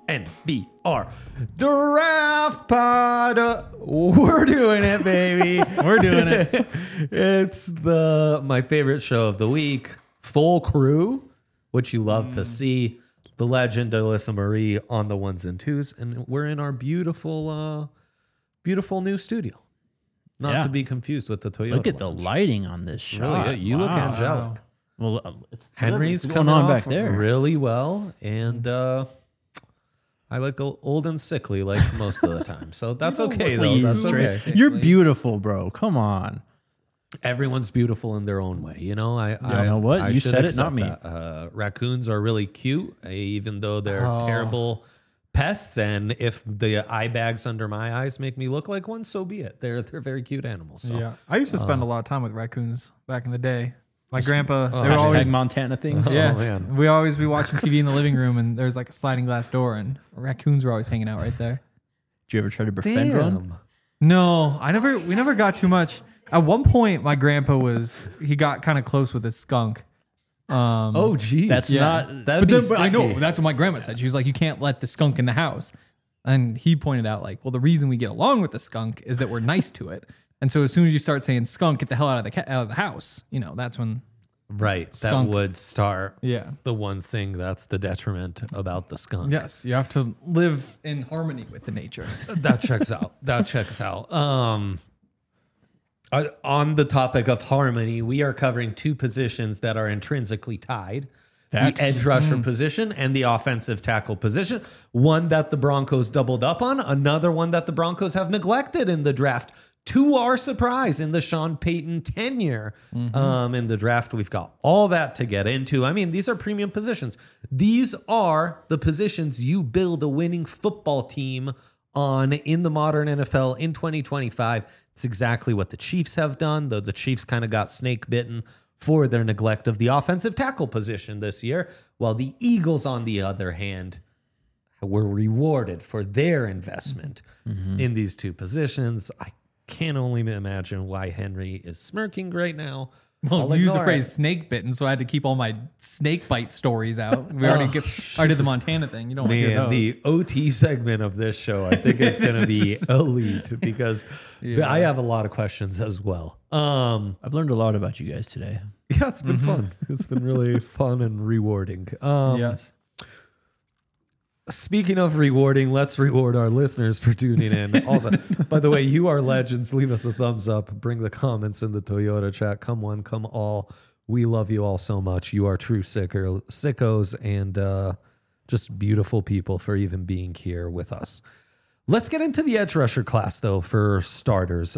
NBR Draft Pod. We're doing it, baby. We're doing it. It's my favorite show of the week. Full crew, which you love to see. The legend Alyssa Marie on the ones and twos, and we're in our beautiful new studio. Not to be confused with the Toyota. Look at lounge. the lighting on this shot. Really, you look angelic. Well, Henry's what's coming going on off back there. really well, and I look old and sickly like most of the time. So that's okay, though. That's okay. You're beautiful, bro. Come on. Everyone's beautiful in their own way. You know, I know what? I You should said it, not accept me. that. Raccoons are really cute, even though they're terrible pests. And if the eye bags under my eyes make me look like one, so be it. They're very cute animals. So. Yeah, I used to spend a lot of time with raccoons back in the day. My grandpa, they were Hashtag always Montana things. yeah. man. We always be watching TV in the living room, and there's like a sliding glass door, and raccoons were always hanging out right there. Did you ever try to befriend one? No, we never got too much. At one point, my grandpa he got kind of close with a skunk. Oh, geez. That's not. That'd But I know sticky. that's what my grandma said. She was like, "You can't let the skunk in the house." And he pointed out, like, well, the reason we get along with the skunk is that we're nice to it. And so as soon as you start saying skunk, get the hell out of the house, that's when. Right. Skunk. That would start Yeah. the one thing that's the detriment about the skunk. Yes, you have to live in harmony with the nature. That checks out. That checks out. On the topic of harmony, we are covering two positions that are intrinsically tied. Facts. The edge rusher position and the offensive tackle position. One that the Broncos doubled up on, another one that the Broncos have neglected in the draft. To our surprise, in the Sean Payton tenure in the draft, we've got all that to get into. I mean, these are premium positions. These are the positions you build a winning football team on in the modern NFL in 2025. It's exactly what the Chiefs have done, though the Chiefs kind of got snake bitten for their neglect of the offensive tackle position this year, while the Eagles, on the other hand, were rewarded for their investment in these two positions. I can only imagine why Henry is smirking right now. Well, I'll you used the ignore phrase it. snake bitten, so I had to keep all my snake bite stories out. We already did the Montana thing. You don't want to hear Man, those. the OT segment of this show, I think, is going to be elite because I have a lot of questions as well. I've learned a lot about you guys today. Yeah, it's been fun. It's been really fun and rewarding. Yes. Speaking of rewarding, let's reward our listeners for tuning in. Also, by the way, you are legends. Leave us a thumbs up. Bring the comments in the Toyota chat. Come one, come all. We love you all so much. You are true sickos and just beautiful people for even being here with us. Let's get into the edge rusher class, though, for starters.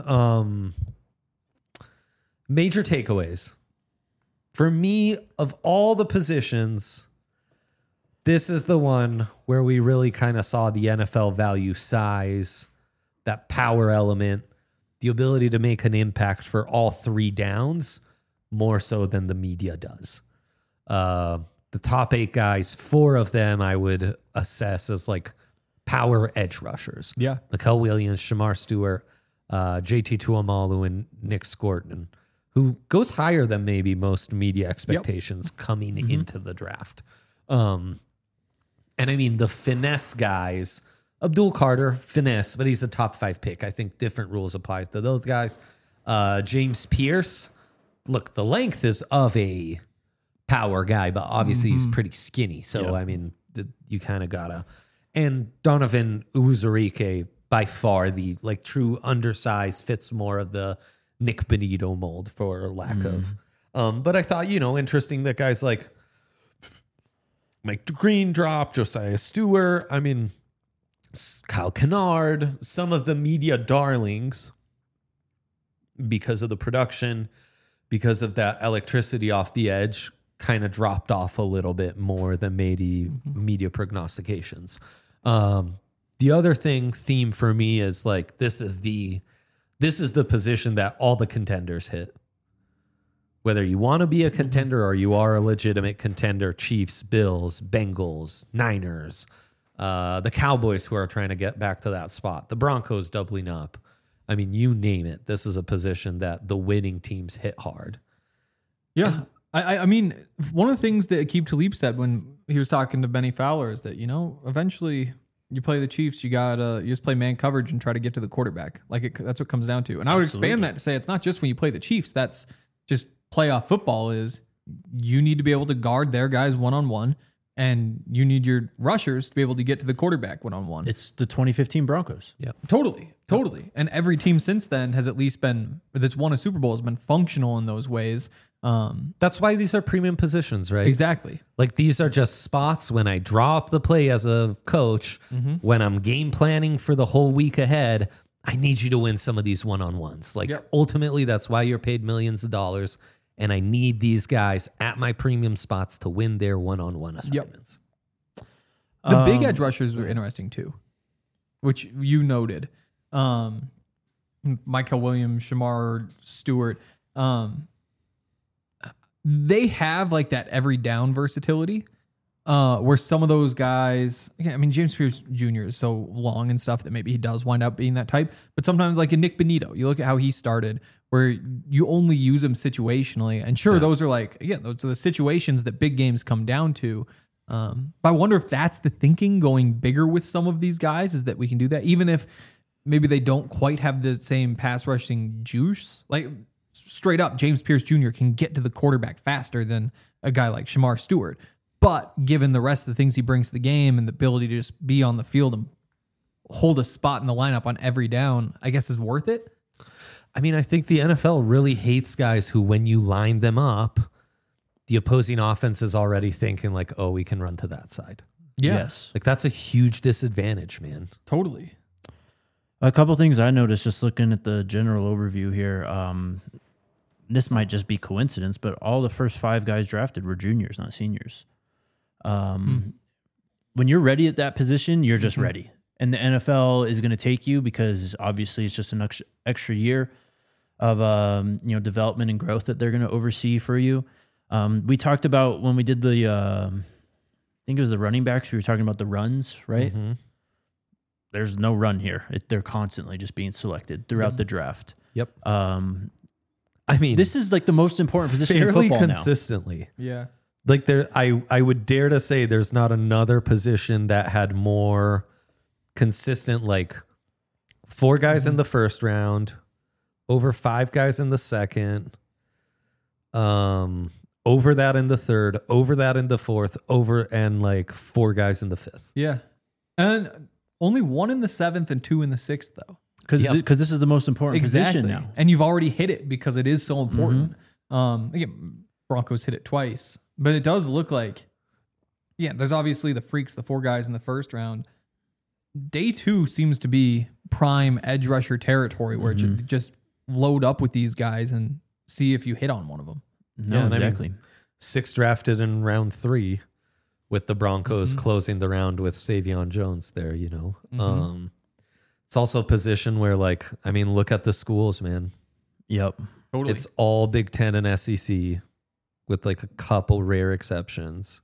Major takeaways. For me, of all the positions, this is the one where we really kind of saw the NFL value size, that power element, the ability to make an impact for all three downs more so than the media does. The top 8 guys, 4 of them I would assess as like power edge rushers. Yeah. Mikael Williams, Shamar Stewart, JT Tuamalu, and Nick Scorton, who goes higher than maybe most media expectations coming into the draft. And I mean, the finesse guys, Abdul Carter, finesse, but he's a top 5 pick. I think different rules apply to those guys. James Pierce, look, the length is of a power guy, but obviously he's pretty skinny. So, I mean, you kind of gotta. And Donovan Uzurike, by far the like true undersized, fits more of the Nick Benito mold for lack of. But I thought, interesting that guys like Mike Green dropped, Josiah Stewart. I mean, Kyle Kennard, some of the media darlings, because of the production, because of that electricity off the edge, kind of dropped off a little bit more than maybe media prognostications. The other theme for me is like this is the position that all the contenders hit. Whether you want to be a contender or you are a legitimate contender, Chiefs, Bills, Bengals, Niners, the Cowboys who are trying to get back to that spot, the Broncos doubling up. I mean, you name it. This is a position that the winning teams hit hard. Yeah. I mean, one of the things that Aqib Talib said when he was talking to Benny Fowler is that, eventually you play the Chiefs, you just play man coverage and try to get to the quarterback. That's what it comes down to. And I would expand that to say it's not just when you play the Chiefs. That's just playoff football is you need to be able to guard their guys one-on-one, and you need your rushers to be able to get to the quarterback one-on-one. It's the 2015 Broncos. Yeah. Totally. And every team since then has at least been, that's won a Super Bowl, has been functional in those ways. That's why these are premium positions, right? Exactly. Like these are just spots when I draw up the play as a coach, when I'm game planning for the whole week ahead, I need you to win some of these one-on-ones. Like ultimately, that's why you're paid millions of dollars. And I need these guys at my premium spots to win their one-on-one assignments. The big edge rushers were interesting too, which you noted. Michael Williams, Shamar Stewart. They have like that every down versatility, where some of those guys, James Pierce Jr. is so long and stuff that maybe he does wind up being that type. But sometimes like a Nick Benito, you look at how he started, where you only use him situationally. And sure, those are those are the situations that big games come down to. But I wonder if that's the thinking going bigger with some of these guys, is that we can do that, even if maybe they don't quite have the same pass rushing juice. Like straight up, James Pierce Jr. can get to the quarterback faster than a guy like Shamar Stewart. But given the rest of the things he brings to the game and the ability to just be on the field and hold a spot in the lineup on every down, I guess is worth it. I think the NFL really hates guys who, when you line them up, the opposing offense is already thinking like, oh, we can run to that side. Yeah. Yes. Like that's a huge disadvantage, man. Totally. A couple things I noticed just looking at the general overview here. This might just be coincidence, but all the first 5 guys drafted were juniors, not seniors. When you're ready at that position, you're just ready. And the NFL is going to take you because obviously it's just an extra year of development and growth that they're going to oversee for you. We talked about when we did the I think it was the running backs, we were talking about the runs, right? Mm-hmm. There's no run here. They're constantly just being selected throughout the draft. Yep. This This is like the most important position in fairly football consistently. Yeah. Like I would dare to say there's not another position that had more consistent, like 4 guys in the first round, over 5 guys in the second, over that in the third, over that in the fourth, and like 4 guys in the fifth. Yeah. And only 1 in the 7th and 2 in the 6th, though. Because this is the most important position now. And you've already hit it because it is so important. Again, Broncos hit it twice, but it does look like, there's obviously the freaks, the 4 guys in the first round. Day 2 seems to be prime edge rusher territory, where you just load up with these guys and see if you hit on one of them. No, exactly. 6 drafted in round 3, with the Broncos closing the round with Savion Jones there, It's also a position where, look at the schools, man. Yep. Totally. It's all Big Ten and SEC with like a couple rare exceptions.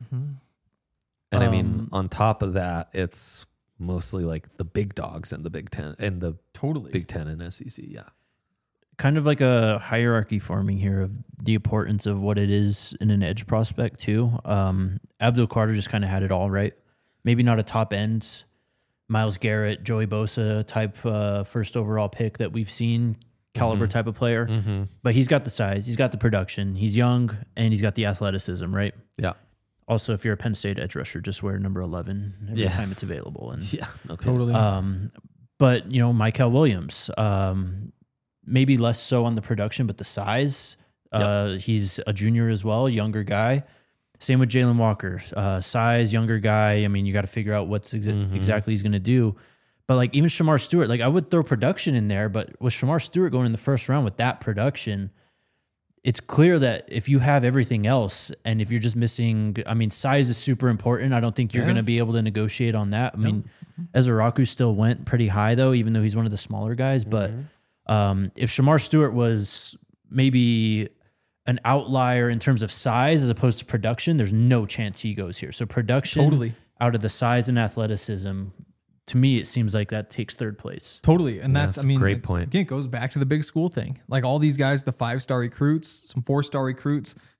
And on top of that, it's mostly like the big dogs in the Big Ten and the Big Ten and SEC. Yeah. Kind of like a hierarchy forming here of the importance of what it is in an edge prospect too. Abdul Carter just kind of had it all, right? Maybe not a top end Myles Garrett, Joey Bosa type first overall pick that we've seen, caliber type of player. But he's got the size, he's got the production, he's young, and he's got the athleticism, right? Yeah. Also, if you're a Penn State edge rusher, just wear number 11 every time it's available. And Totally. But, Michael Williams, maybe less so on the production, but the size. He's a junior as well, younger guy. Same with Jalen Walker, size, younger guy. You got to figure out what's exactly he's going to do. But even Shamar Stewart, I would throw production in there, but with Shamar Stewart going in the first round with that production, it's clear that if you have everything else and if you're just missing, size is super important. I don't think you're going to be able to negotiate on that. Ezra still went pretty high though, even though he's one of the smaller guys. But if Shamar Stewart was maybe an outlier in terms of size as opposed to production, there's no chance he goes here. So production out of the size and athleticism, to me, it seems like that takes 3rd place. Totally. And that's a great point. Again, it goes back to the big school thing. Like all these guys, the 5-star recruits, some 4-star recruits,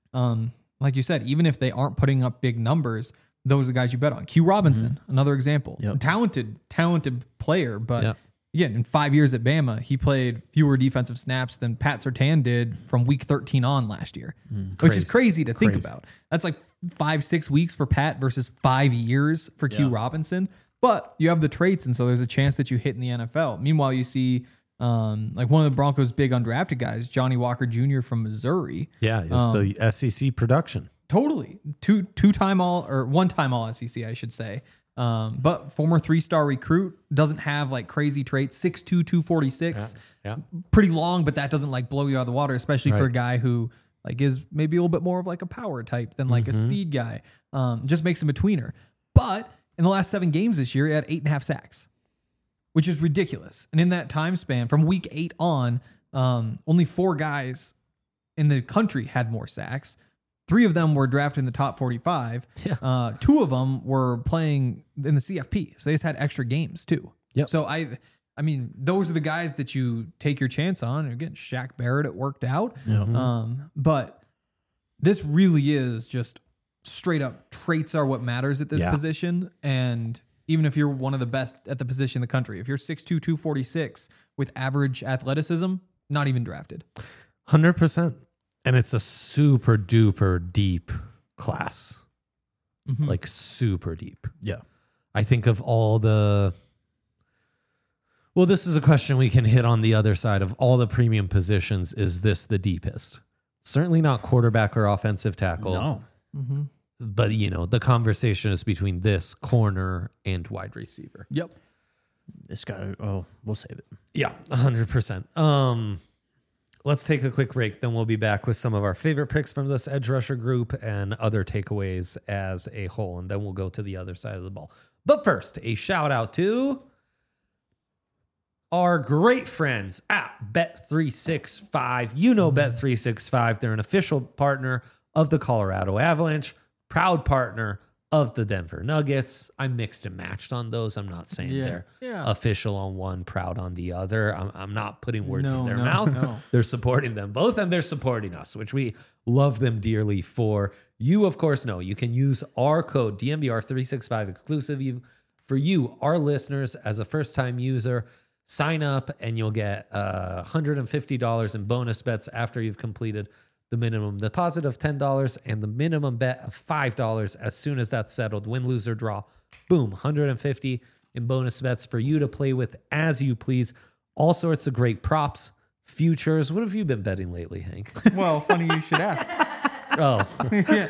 like you said, even if they aren't putting up big numbers, those are the guys you bet on. Q Robinson, another example. Yep. Talented player, but Yep. again, in 5 years at Bama, he played fewer defensive snaps than Pat Surtain did from week 13 on last year, which is crazy to think about. That's like 5-6 weeks for Pat versus 5 years for Q Robinson. But you have the traits, and so there's a chance that you hit in the NFL. Meanwhile, you see like one of the Broncos' big undrafted guys, Johnny Walker Jr. from Missouri. Yeah, it's the SEC production. Totally. Two-time all, or one-time all SEC, I should say. But former 3-star recruit, doesn't have like crazy traits, 6'2", 246. Yeah. Pretty long, but that doesn't like blow you out of the water, especially for a guy who like is maybe a little bit more of like a power type than like a speed guy. Just makes him a tweener. But in the last 7 games this year, he had 8.5 sacks, which is ridiculous. And in that time span, from week 8 on, only 4 guys in the country had more sacks. 3 of them were drafted in the top 45. 2 of them were playing in the CFP. So they just had extra games too. Yep. So I mean, those are the guys that you take your chance on. And again, Shaq Barrett, it worked out. But this really is just straight up traits are what matters at this position. And even if you're one of the best at the position in the country, if you're 6'2", 246 with average athleticism, not even drafted. 100%. And it's a super duper deep class. Like super deep. Yeah. I think of all the... Well, this is a question we can hit on the other side of all the premium positions. Is this the deepest? Certainly not quarterback or offensive tackle. No. But, you know, the conversation is between this corner and wide receiver. Yep. It's got we'll save it. Yeah, 100%. Let's take a quick break. Then we'll be back with some of our favorite picks from this edge rusher group and other takeaways as a whole. And then we'll go to the other side of the ball. But first, a shout out to our great friends at Bet365. You know Bet365. They're an official partner of the Colorado Avalanche, proud partner of the Denver Nuggets. I mixed and matched on those. I'm not saying they're official on one, proud on the other. I'm not putting words in their mouth. They're supporting them both, and they're supporting us, which we love them dearly for. You, of course, know you can use our code DNVR365 exclusive for you, our listeners, as a first-time user. Sign up, and you'll get $150 in bonus bets after you've completed the minimum deposit of $10 and the minimum bet of $5 as soon as that's settled. Win, lose, or draw. Boom, $150 in bonus bets for you to play with as you please. All sorts of great props, futures. What have you been betting lately, Hank? Well, funny you should ask. Oh. Hey,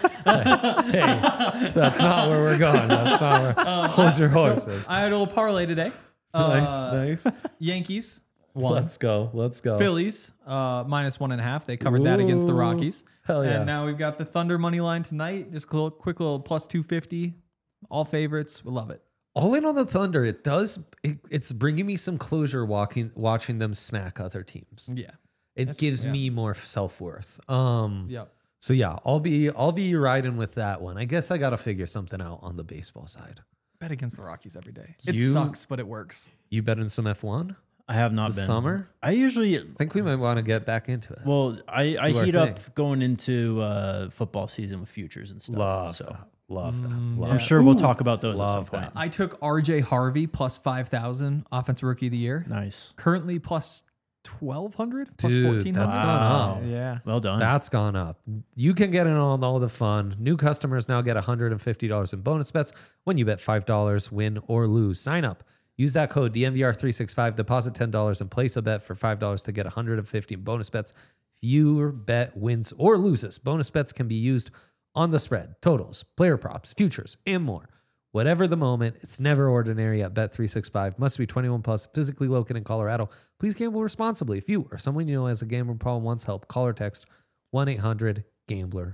that's not where we're going. That's not where. Hold your horses. I had a little parlay today. Nice. Yankees won. Let's go. Phillies -1.5. They covered that against the Rockies. Hell yeah. And now we've got the Thunder money line tonight. Just a quick little +250. All favorites. We love it. All in on the Thunder. It's bringing me some closure watching them smack other teams. Yeah. It gives me more self-worth. Yep. So yeah, I'll be riding with that one. I guess I got to figure something out on the baseball side. Bet against the Rockies every day. It You- sucks, but it works. You betting some F1? I have not The been. summer? I usually I think we might want to get back into it. well, I Do our heat thing. up going into football season with futures and stuff. Love so that. Love that. I'm sure we'll talk about those at some Love point. that. I took RJ Harvey +5,000 offensive rookie of the year. Nice. Currently +1,200, Dude, +1,400. that's gone up. Yeah. Well done. That's gone up. You can get in on all the fun. New customers now get $150 in bonus bets when you bet $5, win or lose. Sign up. Use that code DNVR365, deposit $10 and place a bet for $5 to get $150 in bonus bets. If your bet wins or loses, bonus bets can be used on the spread, totals, player props, futures, and more. Whatever the moment, it's never ordinary at Bet365. Must be 21 plus, physically located in Colorado. Please gamble responsibly. If you or someone you know has a gambling problem, wants help, call or text 1-800-GAMBLER.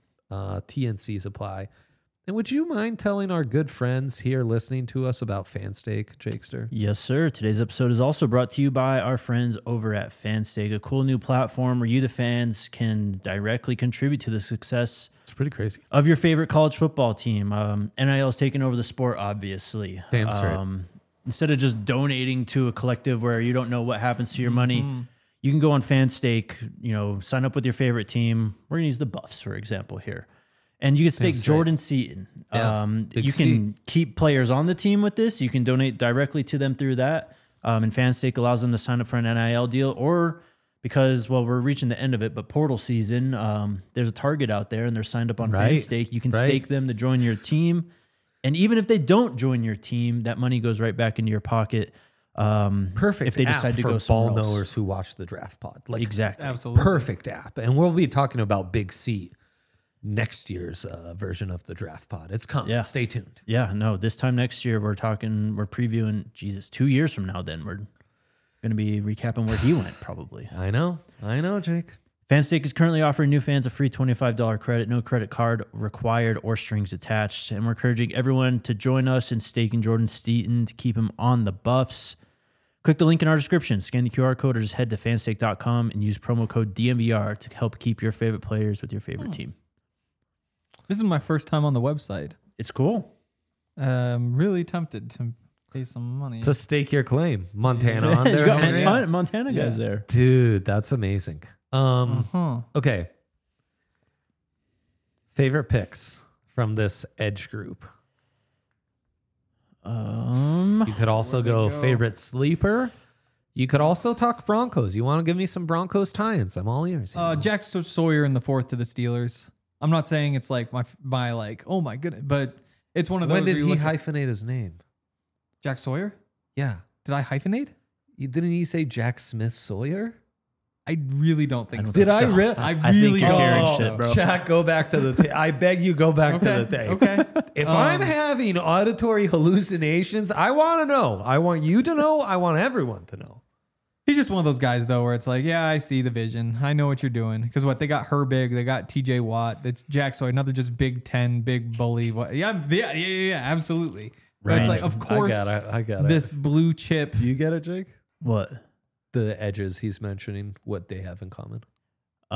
TNCs apply. And would you mind telling our good friends here listening to us about Fanstake, Jakester? Yes, sir. Today's episode is also brought to you by our friends over at Fanstake, a cool new platform where you, the fans, can directly contribute to the success It's pretty crazy. of your favorite college football team. NIL is taking over the sport, obviously. Damn straight. Instead of just donating to a collective where you don't know what happens to your money, you can go on FanStake, sign up with your favorite team. We're going to use the Buffs, for example, here. And you can stake Jordan Seaton. Yeah, You can keep players on the team with this. You can donate directly to them through that. And FanStake allows them to sign up for an NIL deal, or because, we're reaching the end of it, but portal season, there's a target out there and they're signed up on FanStake. You can stake them to join your team. And even if they don't join your team, that money goes right back into your pocket. Perfect. If they decide to for go somewhere ball else. knowers who watch the draft pod. Like, Exactly. Absolutely. perfect app. And we'll be talking about Big C next year's version of the draft pod. It's coming. Yeah. Stay tuned. Yeah, no, this time next year, we're previewing, 2 years from now, then we're going to be recapping where he went, probably. I know, Jake. FanStake is currently offering new fans a free $25 credit, no credit card required or strings attached. And we're encouraging everyone to join us in staking Jordan Seaton to keep him on the Buffs. Click the link in our description, scan the QR code, or just head to fanstake.com and use promo code DMVR to help keep your favorite players with your favorite team. This is my first time on the website. It's cool. I'm really tempted to pay some money. To stake your claim. Montana on You there. got Henry? Montana guys there. Dude, that's amazing. Okay. Favorite picks from this edge group. You could also go favorite sleeper. You could also talk Broncos. You want to give me some Broncos tie-ins? I'm all ears. Jack Sawyer in the 4th to the Steelers. I'm not saying it's like my like, oh my goodness, but it's one of those. When did where you he look at- hyphenate his name? Jack Sawyer? Yeah. Did I hyphenate? Didn't he say Jack Smith Sawyer? I really don't think so. Did I really? I think really you're don't carrying think shit, so. bro. Jack, go back to the tape. I beg you, go back to the tape. Okay. If I'm having auditory hallucinations, I want to know. I want you to know. I want everyone to know. He's just one of those guys, though, where it's like, yeah, I see the vision. I know what you're doing. Because they got Herbig, they got TJ Watt. It's Jack Sawyer, another just Big Ten, big bully. Yeah, absolutely. But it's like, of course, I got it. this blue chip. Do you get it, Jake? What? The edges he's mentioning, what they have in common. You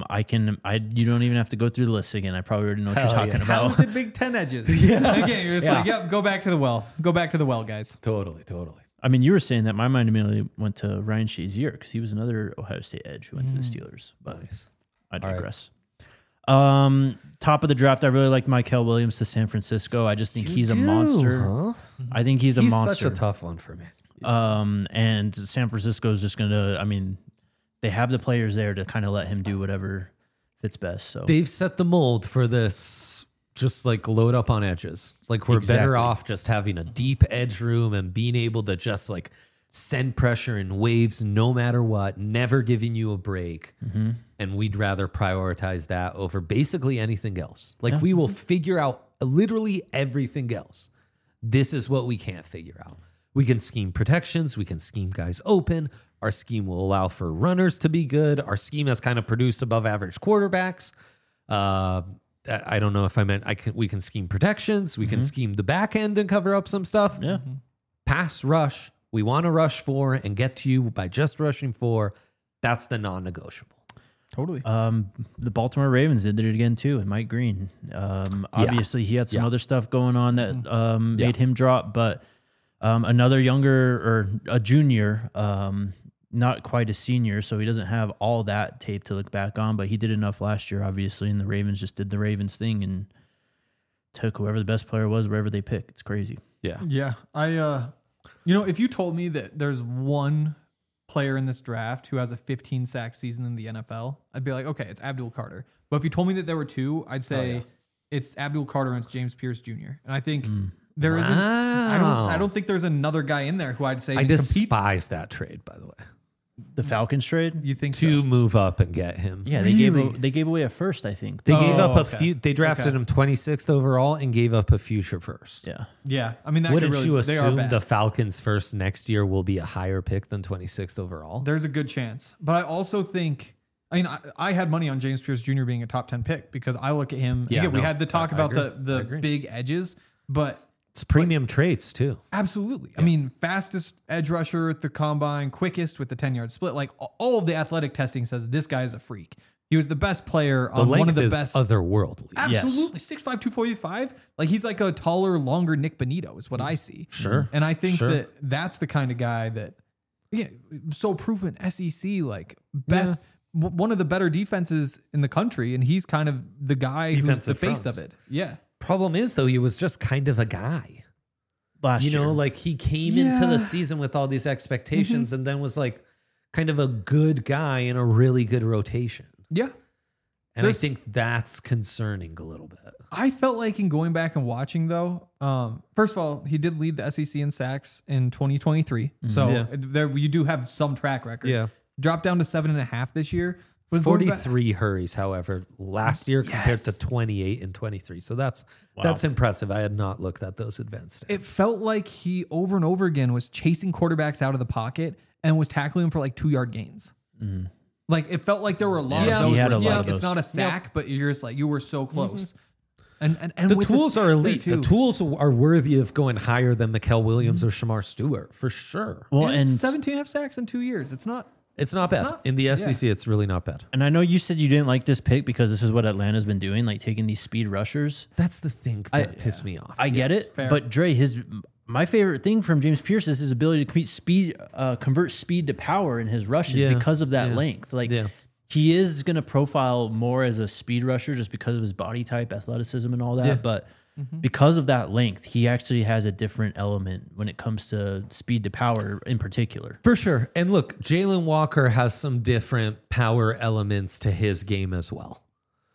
don't even have to go through the list again. I probably already know what you're Hell talking yeah. about. Talented Big Ten edges. Yeah. Again, you're just Yeah. like, yep, go back to the well. Go back to the well, guys. Totally. I mean, you were saying that my mind immediately went to Ryan Shazier because he was another Ohio State edge who went to the Steelers. But Nice. I digress. Top of the draft, I really like Michael Williams to San Francisco. I just think he's a monster. Huh? I think he's a monster. Such a tough one for me. And San Francisco is just going to, they have the players there to kind of let him do whatever fits best. So They've set the mold for this. Just like load up on edges. Like we're better Exactly. off just having a deep edge room and being able to just like send pressure in waves no matter what, never giving you a break. And we'd rather prioritize that over basically anything else. Like we will figure out literally everything else. This is what we can't figure out. We can scheme protections. We can scheme guys open. Our scheme will allow for runners to be good. Our scheme has kind of produced above average quarterbacks. I don't know if I meant we can scheme protections. We can scheme the back end and cover up some stuff. yeah. Pass rush. We want to rush 4 and get to you by just rushing 4. That's the non-negotiable. Totally. The Baltimore Ravens did it again too, and Mike Green. Obviously, he had some other stuff going on that made him drop, but another younger or a junior, not quite a senior, so he doesn't have all that tape to look back on, but he did enough last year, obviously, and the Ravens just did the Ravens thing and took whoever the best player was, wherever they picked. It's crazy. Yeah. Yeah. If you told me that there's one player in this draft who has a 15 sack season in the NFL, I'd be like, okay, it's Abdul Carter. But if you told me that there were two, I'd say it's Abdul Carter and it's James Pierce Jr. And I think there isn't. I don't think there's another guy in there who I'd say I competes. despise that trade, by the way. The Falcons trade? You think To so? move up and get him. Yeah, Really? they gave away a first, I think. They gave up a okay. few. They drafted Okay. him 26th overall and gave up a future first. Yeah. Yeah. I mean, that Wouldn't could really, you they are assume bad. the Falcons first next year will be a higher pick than 26th overall? There's a good chance. But I also think, I had money on James Pierce Jr. being a top 10 pick because I look at him. Yeah, Again, we no, had the talk I about agree. I the agree. big edges, but It's premium traits too. absolutely. I mean, fastest edge rusher at the combine, quickest with the 10-yard split. Like all of the athletic testing says this guy is a freak. He was the best player The on length one of the is best. otherworldly. Absolutely. 6'5", 245. Like he's like a taller, longer Nick Bonito is what I see. Sure. And I think Sure. that that's the kind of guy that Yeah, so proven SEC, like best, one of the better defenses in the country, and he's kind of the guy who's the Defensive face fronts. of it. Yeah, Problem is, though, he was just kind of a guy. last You year. know, like he came into Yeah. the season with all these expectations and then was like kind of a good guy in a really good rotation. yeah. And There's- I think that's concerning a little bit. I felt like in going back and watching though, first of all, he did lead the SEC in sacks in 2023, so Yeah. there you do have some track record. Yeah. Dropped down to 7.5 this year. But going back- 43 hurries, however, last year compared to 28 and 23. So that's impressive. I had not looked at those advanced stats. It felt like he over and over again was chasing quarterbacks out of the pocket and was tackling them for like 2-yard gains. Like it felt like there were a lot Yeah. of those. He had where a it's lot like of it's those. not a sack, but you're just like you were so close. And The with tools are sacks there elite. The too. tools are worthy of going higher than Mikael Williams or Shamar Stewart for sure. well, And and 17.5 sacks in 2 years. It's not. It's not bad. In the SEC, it's really not bad. and I know you said you didn't like this pick because this is what Atlanta's been doing, like taking these speed rushers. That's the thing that pissed me off. I get it, fair. but Dre, my favorite thing from James Pierce is his ability to convert speed to power in his rushes Yeah. because of that Yeah. length. Like Yeah. he is going to profile more as a speed rusher just because of his body type, athleticism, and all that. Yeah. But because of that length, he actually has a different element when it comes to speed to power in particular. For sure. And look, Jalen Walker has some different power elements to his game as well.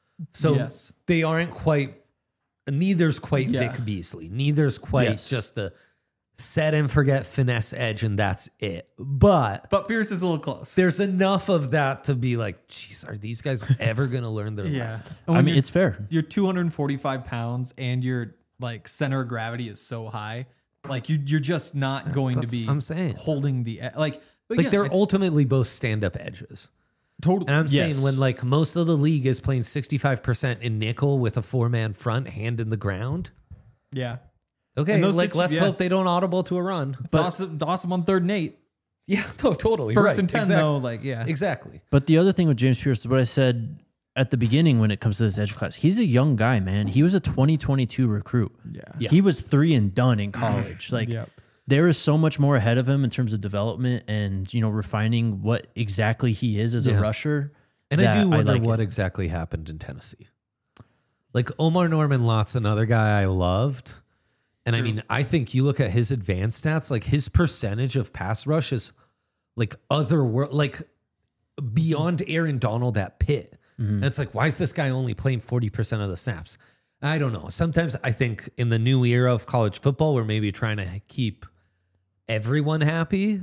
So Yes. they aren't quite, neither's quite Yeah. Vic Beasley. Neither's quite Yes. just the set and forget finesse edge and that's it. But But Pierce is a little close. there's enough of that to be like, geez, are these guys ever going to learn their lesson? And I when mean, it's fair. you're 245 pounds and your like center of gravity is so high, like you're just not going to That's be. what I'm saying. Holding the like. But Like again, they're ultimately both stand-up edges. totally. And I'm Yes. saying when like most of the league is playing 65% in nickel with a 4-man front, hand in the ground. Yeah. Okay, And those like six- let's yeah. hope they don't audible to a run. Dawson on 3rd and 8. Yeah, no, totally. First right. and 10 exactly. though. Like yeah. Exactly. But the other thing with James Pierce is what I said at the beginning when it comes to this edge class. He's a young guy, man. He was a 2022 recruit. Yeah. He was 3 and done in college. Like Yep. there is so much more ahead of him in terms of development and, refining what exactly he is as Yeah. a rusher. And I that do wonder like what it. exactly happened in Tennessee. Like Omar Norman Lott's another guy I loved. And I mean, I think you look at his advanced stats, like his percentage of pass rush is like like beyond Aaron Donald at Pitt. And it's like, why is this guy only playing 40% of the snaps? I don't know. Sometimes I think in the new era of college football, we're maybe trying to keep everyone happy,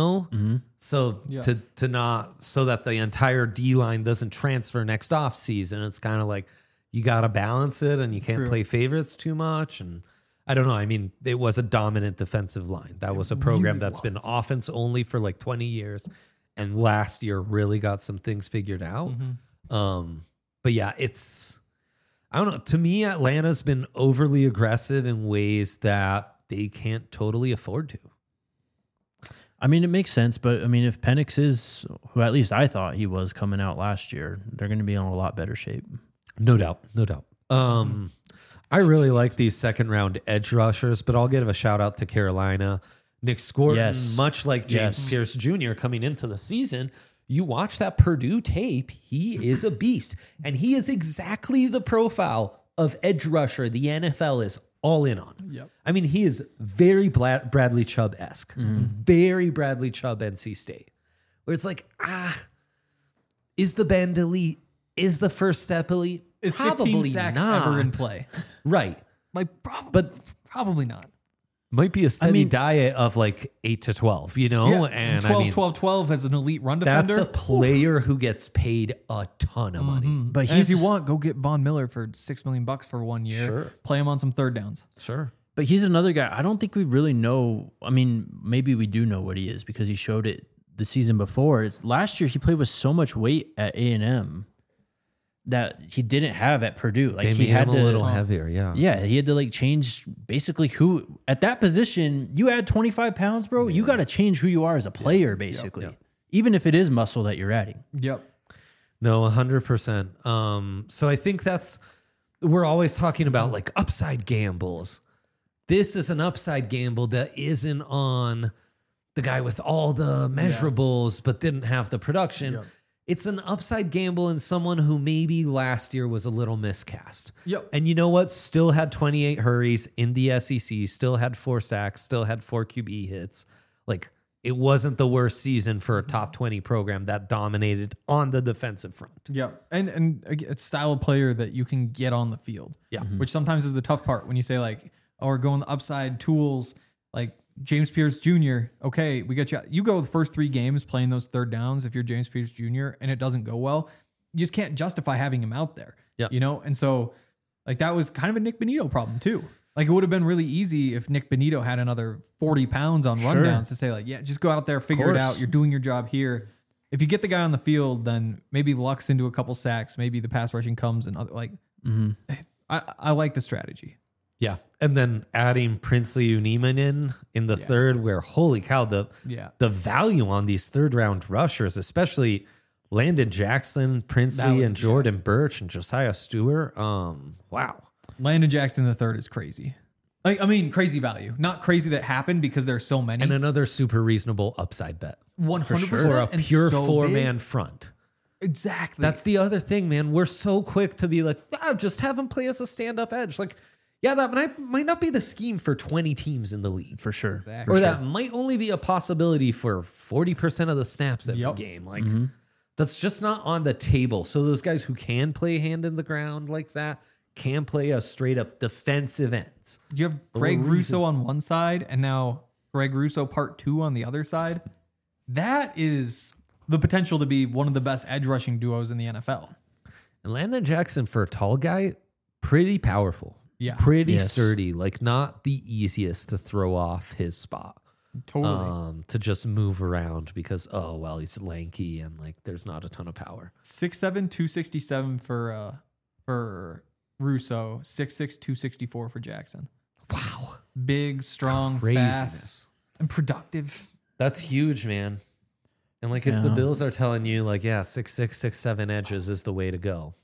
So Yeah. to not so that the entire D line doesn't transfer next off season. It's kind of like you got to balance it and you can't True. play favorites too much. And I don't know. I mean, it was a dominant defensive line. That was a program that's been offense only for like 20 years. And last year really got some things figured out. But yeah, I don't know. To me, Atlanta's been overly aggressive in ways that they can't totally afford to. I mean, it makes sense, but I mean, if Penix is who at least I thought he was coming out last year, they're going to be in a lot better shape. No doubt. No doubt. I really like these second round edge rushers, but I'll give a shout out to Carolina. Nick Scorton, Yes. much like James Yes. Pierce Jr. coming into the season, you watch that Purdue tape, he is a beast. And he is exactly the profile of edge rusher the NFL is all in on. Yep. I mean, he is very Bradley Chubb-esque, very Bradley Chubb NC State, where it's like, is the bend elite? Is the first step elite? Is 15 sacks ever in play? Right. Like, probably not. Might be a steady mean- diet of like 8 to 12, And 12, I mean, 12 as an elite run that's defender. a player who gets paid a ton of money. But And he's if you want, go get Von Miller for $6 million for 1 year. Sure. Play him on some third downs. Sure. But he's another guy. I don't think we really know. I mean, maybe we do know what he is because he showed it the season before. Last year, he played with so much weight at A&M that he didn't have at Purdue. Like They he made had him to, a little heavier, yeah. Yeah, he had to like change basically who at that position. You add 25 pounds, bro. You got to change who you are as a player, basically, even if it is muscle that you're adding. Yep. No, 100%. So I think we're always talking about like upside gambles. This is an upside gamble that isn't on the guy with all the measurables but didn't have the production. Yep. It's an upside gamble in someone who maybe last year was a little miscast. Yep. And you know what? Still had 28 hurries in the SEC, still had 4 sacks, still had 4 QB hits. Like, it wasn't the worst season for a top 20 program that dominated on the defensive front. Yeah, and it's style of player that you can get on the field. Yeah. Which sometimes is the tough part when you say like, oh, we're going the upside tools like James Pierce Jr. Okay, we got you. You go the first 3 games playing those third downs if you're James Pierce Jr. and it doesn't go well, you just can't justify having him out there. Yeah. You know, and so like that was kind of a Nick Benito problem too. Like it would have been really easy if Nick Benito had another 40 pounds on rundowns to say like, yeah, just go out there, figure it out. You're doing your job here. If you get the guy on the field, then maybe Luck's into a couple sacks. Maybe the pass rushing comes and other, like, I like the strategy. Yeah. And then adding Princely Uniman in the third, where holy cow, the value on these third round rushers, especially Landon Jackson, Princely, and Jordan Birch and Josiah Stewart. Wow. Landon Jackson the third is crazy. Like, I mean, crazy value. Not crazy that happened because there's so many. And another super reasonable upside bet. 100%. For a and pure so 4-man front. Exactly. That's the other thing, man. We're so quick to be like, just have him play as a stand-up edge. Like, yeah, that might not be the scheme for 20 teams in the league. For sure. Exactly. Or that might only be a possibility for 40% of the snaps every game. Like, that's just not on the table. So those guys who can play hand in the ground like that can play a straight-up defensive ends. You have Greg Russo on one side and now Greg Russo part 2 on the other side. That is the potential to be one of the best edge rushing duos in the NFL. And Landon Jackson, for a tall guy, pretty powerful. Yeah. Pretty sturdy. Like, not the easiest to throw off his spot. Totally. To just move around because, he's lanky and, like, there's not a ton of power. 6'7", 267 for Russo, 6'6", 264 for Jackson. Wow. Big, strong, fast, and productive. That's huge, man. And, like, if the Bills are telling you, like, 6'6", 6'7" edges is the way to go.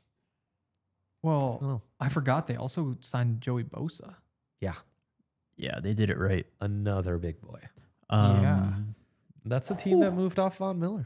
Well, I forgot they also signed Joey Bosa. Yeah. Yeah, they did it right. Another big boy. Yeah. That's a team that moved off Von Miller.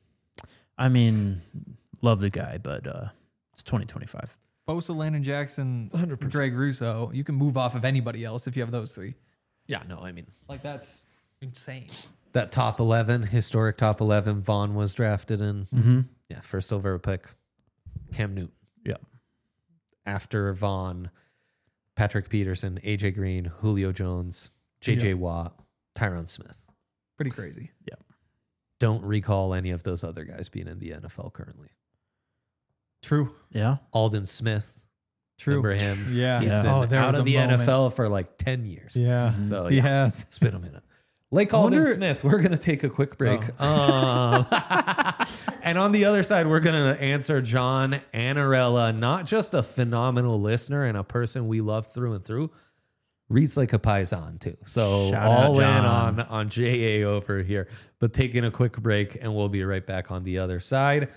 I mean, love the guy, but it's 2025. Bosa, Landon Jackson, 100%. Greg Russo. You can move off of anybody else if you have those 3. Yeah, no, I mean, Like, that's insane. that top 11, historic top 11, Vaughn was drafted in. Mm-hmm. Yeah, first overall pick, Cam Newton. Yeah. After Vaughn, Patrick Peterson, AJ Green, Julio Jones, JJ Watt, Tyron Smith. Pretty crazy. Yeah. Don't recall any of those other guys being in the NFL currently. True. Yeah. Alden Smith. True. Remember him? Yeah. He's Yeah. been there out was of a the moment. NFL for like 10 years. Yeah. So He has. it's been a minute. Lake Alden wonder- Smith, we're going to take a quick break. And on the other side, we're going to answer John Anarella, not just a phenomenal listener and a person we love through and through, reads like a Paisan too. So Shout out, all in John. on JA over here. But taking a quick break, and we'll be right back on the other side,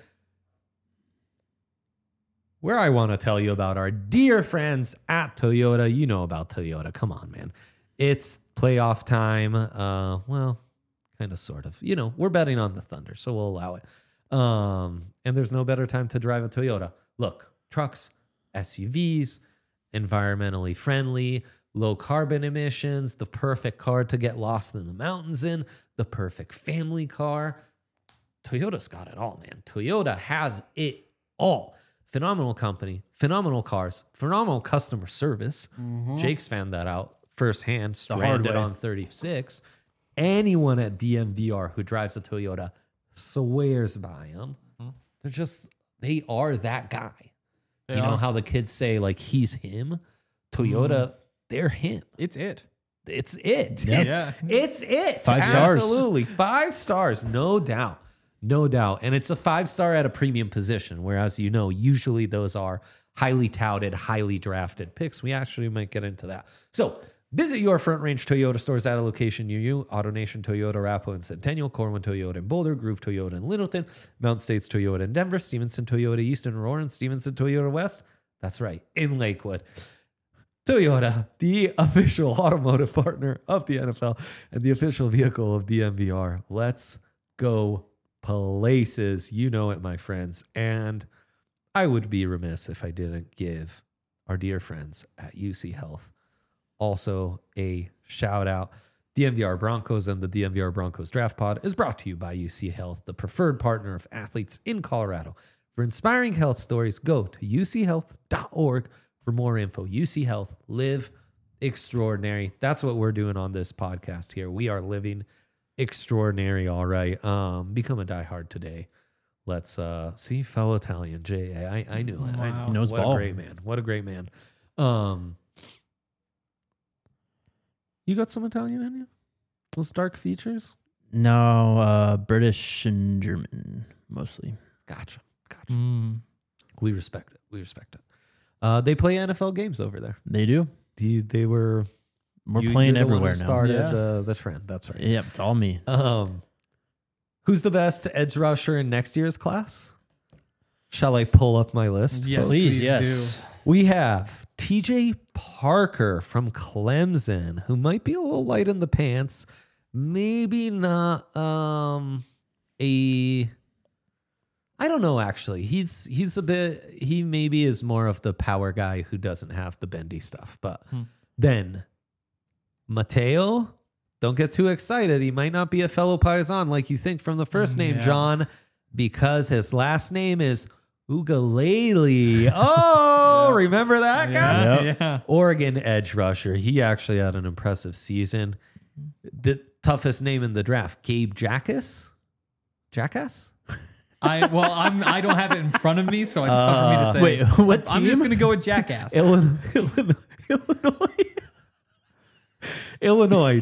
where I want to tell you about our dear friends at Toyota. You know about Toyota. Come on, man. It's playoff time. Well, kind of, sort of. You know, we're betting on the Thunder, so we'll allow it. And there's no better time to drive a Toyota. Look, trucks, SUVs, environmentally friendly, low carbon emissions, the perfect car to get lost in the mountains in, the perfect family car. Toyota's got it all, man. Toyota has it all. Phenomenal company, phenomenal cars, phenomenal customer service. Jake's found that out firsthand, stranded way. on 36. Anyone at DMVR who drives a Toyota swears by them. They are that guy. They you know are. how the kids say, like, he's him? Toyota, they're him. It's it. It's it. Yeah. It's it. 5 stars. Absolutely. 5 stars. No doubt. No doubt. And it's a 5-star at a premium position, whereas, you know, usually those are highly touted, highly drafted picks. We actually might get into that. So visit your Front Range Toyota stores at a location near you. AutoNation Toyota, Arapahoe and Centennial, Corwin Toyota in Boulder, Groove Toyota in Littleton, Mountain States Toyota in Denver, Stevenson Toyota East in Aurora, and Stevenson Toyota West. That's right, in Lakewood. Toyota, the official automotive partner of the NFL and the official vehicle of DNVR. Let's go places. You know it, my friends. And I would be remiss if I didn't give our dear friends at UC Health also a shout out. DNVR Broncos and the DNVR Broncos Draft Pod is brought to you by UC Health, the preferred partner of athletes in Colorado. For inspiring health stories, go to uchealth.org for more info. UC Health, live extraordinary. That's what we're doing on this podcast here. We are living extraordinary, all right. Become a diehard today. Let's see, fellow Italian, J.A. I knew it. Wow. He knows What ball. a great man. What a great man. You got some Italian in you? Those dark features? No, British and German mostly. Gotcha. Mm. We respect it. They play NFL games over there. They do. They were. We're you're playing the one who everywhere now. started Yeah. the trend. That's right. Yep, it's all me. Who's the best edge rusher in next year's class? Shall I pull up my list? Yes, Please, please yes. do. We have TJ Parker from Clemson, who might be a little light in the pants. Maybe not I don't know, actually. He's a bit, he maybe is more of the power guy who doesn't have the bendy stuff. But then Mateo, don't get too excited. He might not be a fellow Paisan like you think from the first name, Yeah. John, because his last name is Ugalele. Oh, remember that guy? Yep. Yeah. Oregon edge rusher. He actually had an impressive season. The toughest name in the draft, Gabe Jackass? Jackass? I don't have it in front of me, so it's tough for me to say. Wait, what team? I'm just gonna go with Jackass. Illinois,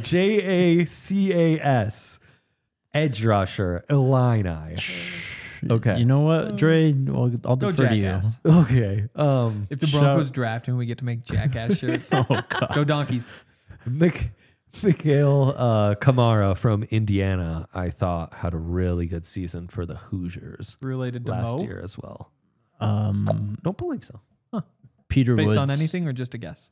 Jacas, edge rusher, Illini. Okay. You know what, Dre? I'll Go defer to you. Jackass. Okay. If the Broncos draft and we get to make Jackass shirts, Oh, God. go Donkeys. Mikhail Kamara from Indiana, I thought had a really good season for the Hoosiers Related to last Mo? year as well. Don't believe so. Peter Based Woods. on anything or just a guess?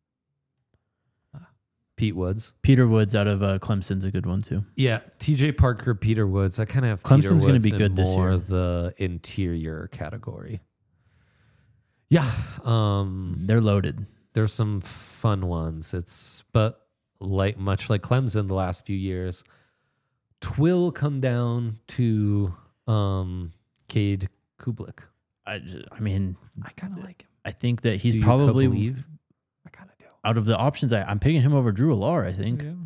Pete Woods. Peter Woods out of Clemson's a good one too. Yeah, TJ Parker, Peter Woods. I kind of have Clemson's going gonna to be good this more year. the interior category. Yeah, They're loaded. there's some fun ones. But much like Clemson the last few years, twill come down to Cade Kublik. I mean, I kind of like him. I think that he's Do you probably believe? I kind of do. out of the options. I'm picking him over Drew Alar. I think. Yeah.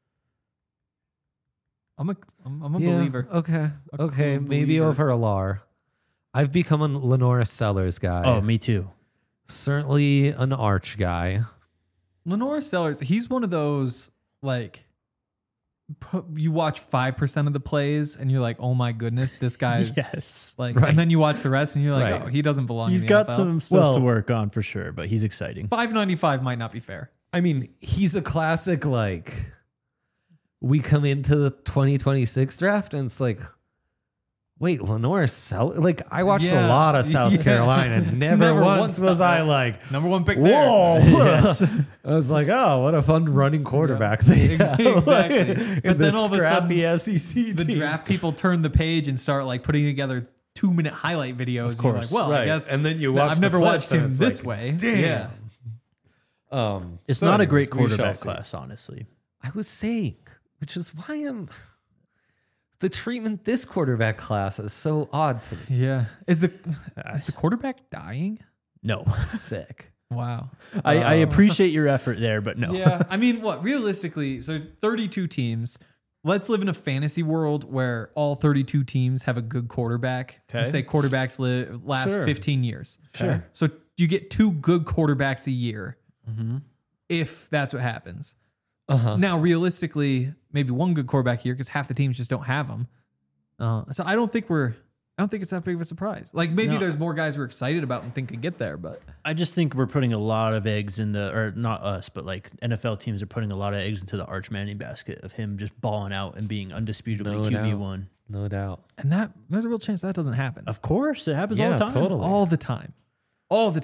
I'm a believer. Okay, A okay, cool maybe believer. over Alar. I've become a Lenora Sellers guy. Oh, me too. Certainly an arch guy. Lenore Sellers, he's one of those like you watch 5% of the plays and you're like, oh my goodness, this guy's Yes. like, Right. and then you watch the rest and you're like, Right. oh, he doesn't belong. He's in the got NFL. some stuff Well- to work on for sure, but he's exciting. $5.95 might not be fair. I mean, he's a classic, like, we come into the 2026 draft and it's like, wait, Lenore Sellers? Like, I watched a Yeah. lot of South Yeah. Carolina and never once was thought I that. like, Number one pick whoa. there. I was like, oh, what a fun running quarterback they have. Exactly. In But this then all of a scrappy sudden, SEC the team. draft people turn the page and start like putting together 2-minute highlight videos. Of course. And you're like, well, I Right. guess. And then you that watch I've the never clips watched and him it's this like, way. damn. Yeah. It's So not a anyways, great we shall quarterback see. class, honestly. I was saying, which is why the treatment this quarterback class is so odd to me. Yeah. Is the quarterback dying? No, Sick. Wow. I appreciate your effort there, but no. Yeah. I mean, what realistically, so 32 teams. Let's live in a fantasy world where all 32 teams have a good quarterback. Okay. Let's say quarterbacks last Sure. 15 years. Sure. So you get 2 good quarterbacks a year if that's what happens. Uh-huh. Now, realistically, maybe 1 good quarterback here because half the teams just don't have them. So I don't think it's that big of a surprise. Like maybe No. there's more guys we're excited about and think could get there, but I just think we're putting a lot of eggs in or not us, but like NFL teams are putting a lot of eggs into the Arch Manning basket of him just balling out and being undisputably No QB1. No doubt. and there's a real chance that doesn't happen Of course, it happens all Yeah, the time. totally. all the time, all the time.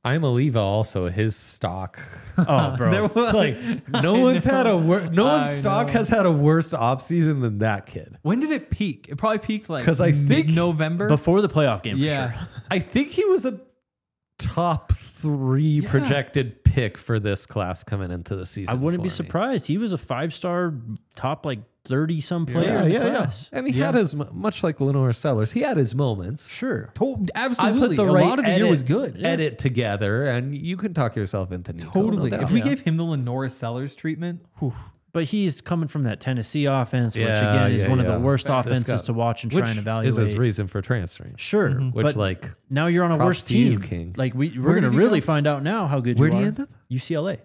I'm Oliva also, his stock. Oh, bro. Like no one's had a no one's I stock know. has had a worse offseason than that kid. When did it peak? It probably peaked like 'Cause I think- November. Before the playoff game, for Yeah. sure. I think he was a top 3 projected pick for this class coming into the season. I wouldn't be for me. surprised. He was a 5-star top, like 30-some player in the class. And he had his, much like Lenore Sellers, he had his moments. Sure. Absolutely. A lot of the year was good. Edit together, and you can talk yourself into Nico. Totally. No doubt. If we gave him the Lenora Sellers treatment, whew, But he's coming from that Tennessee offense, which Yeah, again is yeah, one of yeah. the worst This offenses guy- to watch and which try and is evaluate. his reason for transferring. Sure, Which, but like, now you're on a props worse to you, team. King. Like we're Where gonna did he really go? find out now how good Where you did he are. end up? UCLA.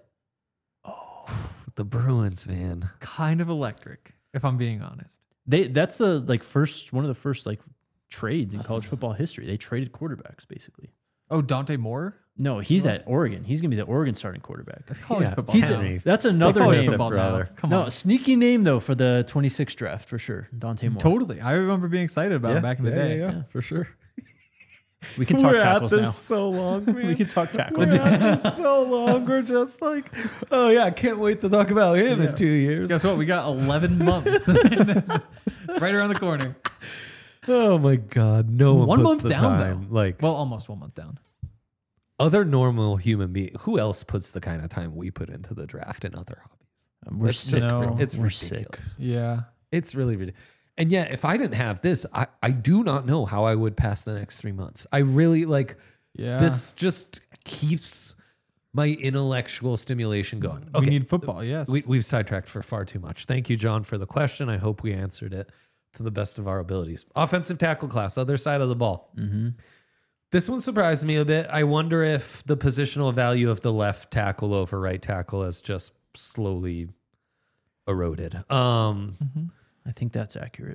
The Bruins, man. kind of electric, if I'm being honest. That's the one of the first trades in college football history. They traded quarterbacks basically. Oh, Dante Moore? No, he's at Oregon. He's gonna be the Oregon starting quarterback. College Yeah, football. He's now. Henry. that's Stick another with College name. it, football brother. now. Come No, on. sneaky name though for the 26th draft for sure. Dante Moore. Totally. I remember being excited about it back in the day. Yeah, for sure. We can talk tackles now. so long, man. We can talk tackles. We're at this so long. We're just like, oh yeah, can't wait to talk about him in 2 years. Guess what? We got 11 months. Right around the corner. Oh my god, no one, 1 puts month the down, time. Like Well, almost 1 month down. other normal human beings, who else puts the kind of time we put into the draft and other hobbies? We're It's sick. just No. it's We're ridiculous. Yeah. It's really ridiculous. And yet, if I didn't have this, I do not know how I would pass the next 3 months. I really like Yeah. this. Just keeps my intellectual stimulation going. We need football, yes. We've sidetracked for far too much. Thank you, John, for the question. I hope we answered it to the best of our abilities. Offensive tackle class, other side of the ball. Mm-hmm. This one surprised me a bit. I wonder if the positional value of the left tackle over right tackle has just slowly eroded. I think that's accurate.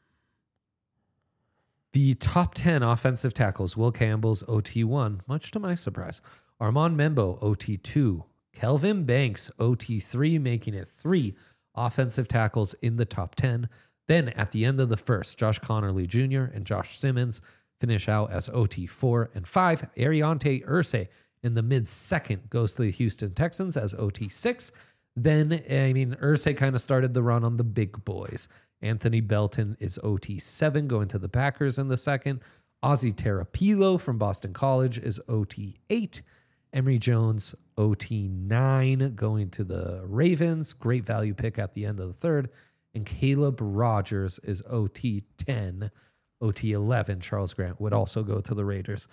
The top 10 offensive tackles, Will Campbell's OT1, much to my surprise. Armand Membo, OT2. Kelvin Banks, OT3, making it 3 offensive tackles in the top 10. Then at the end of the first, Josh Connerly Jr. and Josh Simmons finish out as OT4 and 5. Ariante Irsay in the mid-second goes to the Houston Texans as OT6. Then, Irsay kind of started the run on the big boys. Anthony Belton is OT7 going to the Packers in the second. Ozzie Terapilo from Boston College is OT8. Emery Jones, OT9 going to the Ravens. Great value pick at the end of the third. And Caleb Rogers is OT10. OT11, Charles Grant would also go to the Raiders.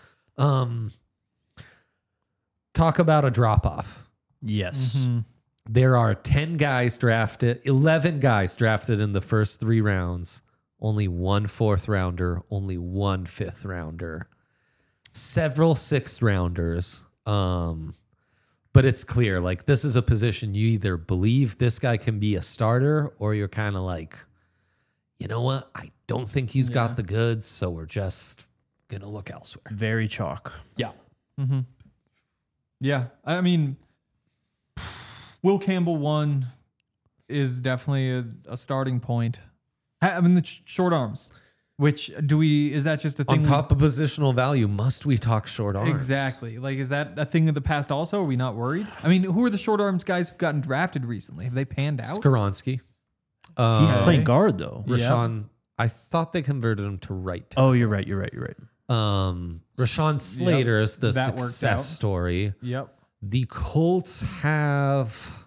Talk about a drop-off. Yes. Mm-hmm. There are 10 guys drafted, 11 guys drafted in the first 3 rounds. Only 1 4th rounder, only 1 5th rounder, several 6th rounders. But it's clear, like, this is a position you either believe this guy can be a starter, or you're kind of like, you know what? I don't think he's got the goods, so we're just going to look elsewhere. Very chalk. Yeah. Mm-hmm. Yeah. I mean, Will Campbell 1 is definitely a starting point. I mean, the short arms, which is that just a thing? On top of positional value, must we talk short arms? Exactly. Like, is that a thing of the past also? Are we not worried? I mean, who are the short arms guys who've gotten drafted recently? Have they panned out? Skoronsky. He's playing guard though. Rashawn, I thought they converted him to right. Oh, you're right. You're right. Rashawn Slater is the that worked out. success story. Yep. The Colts have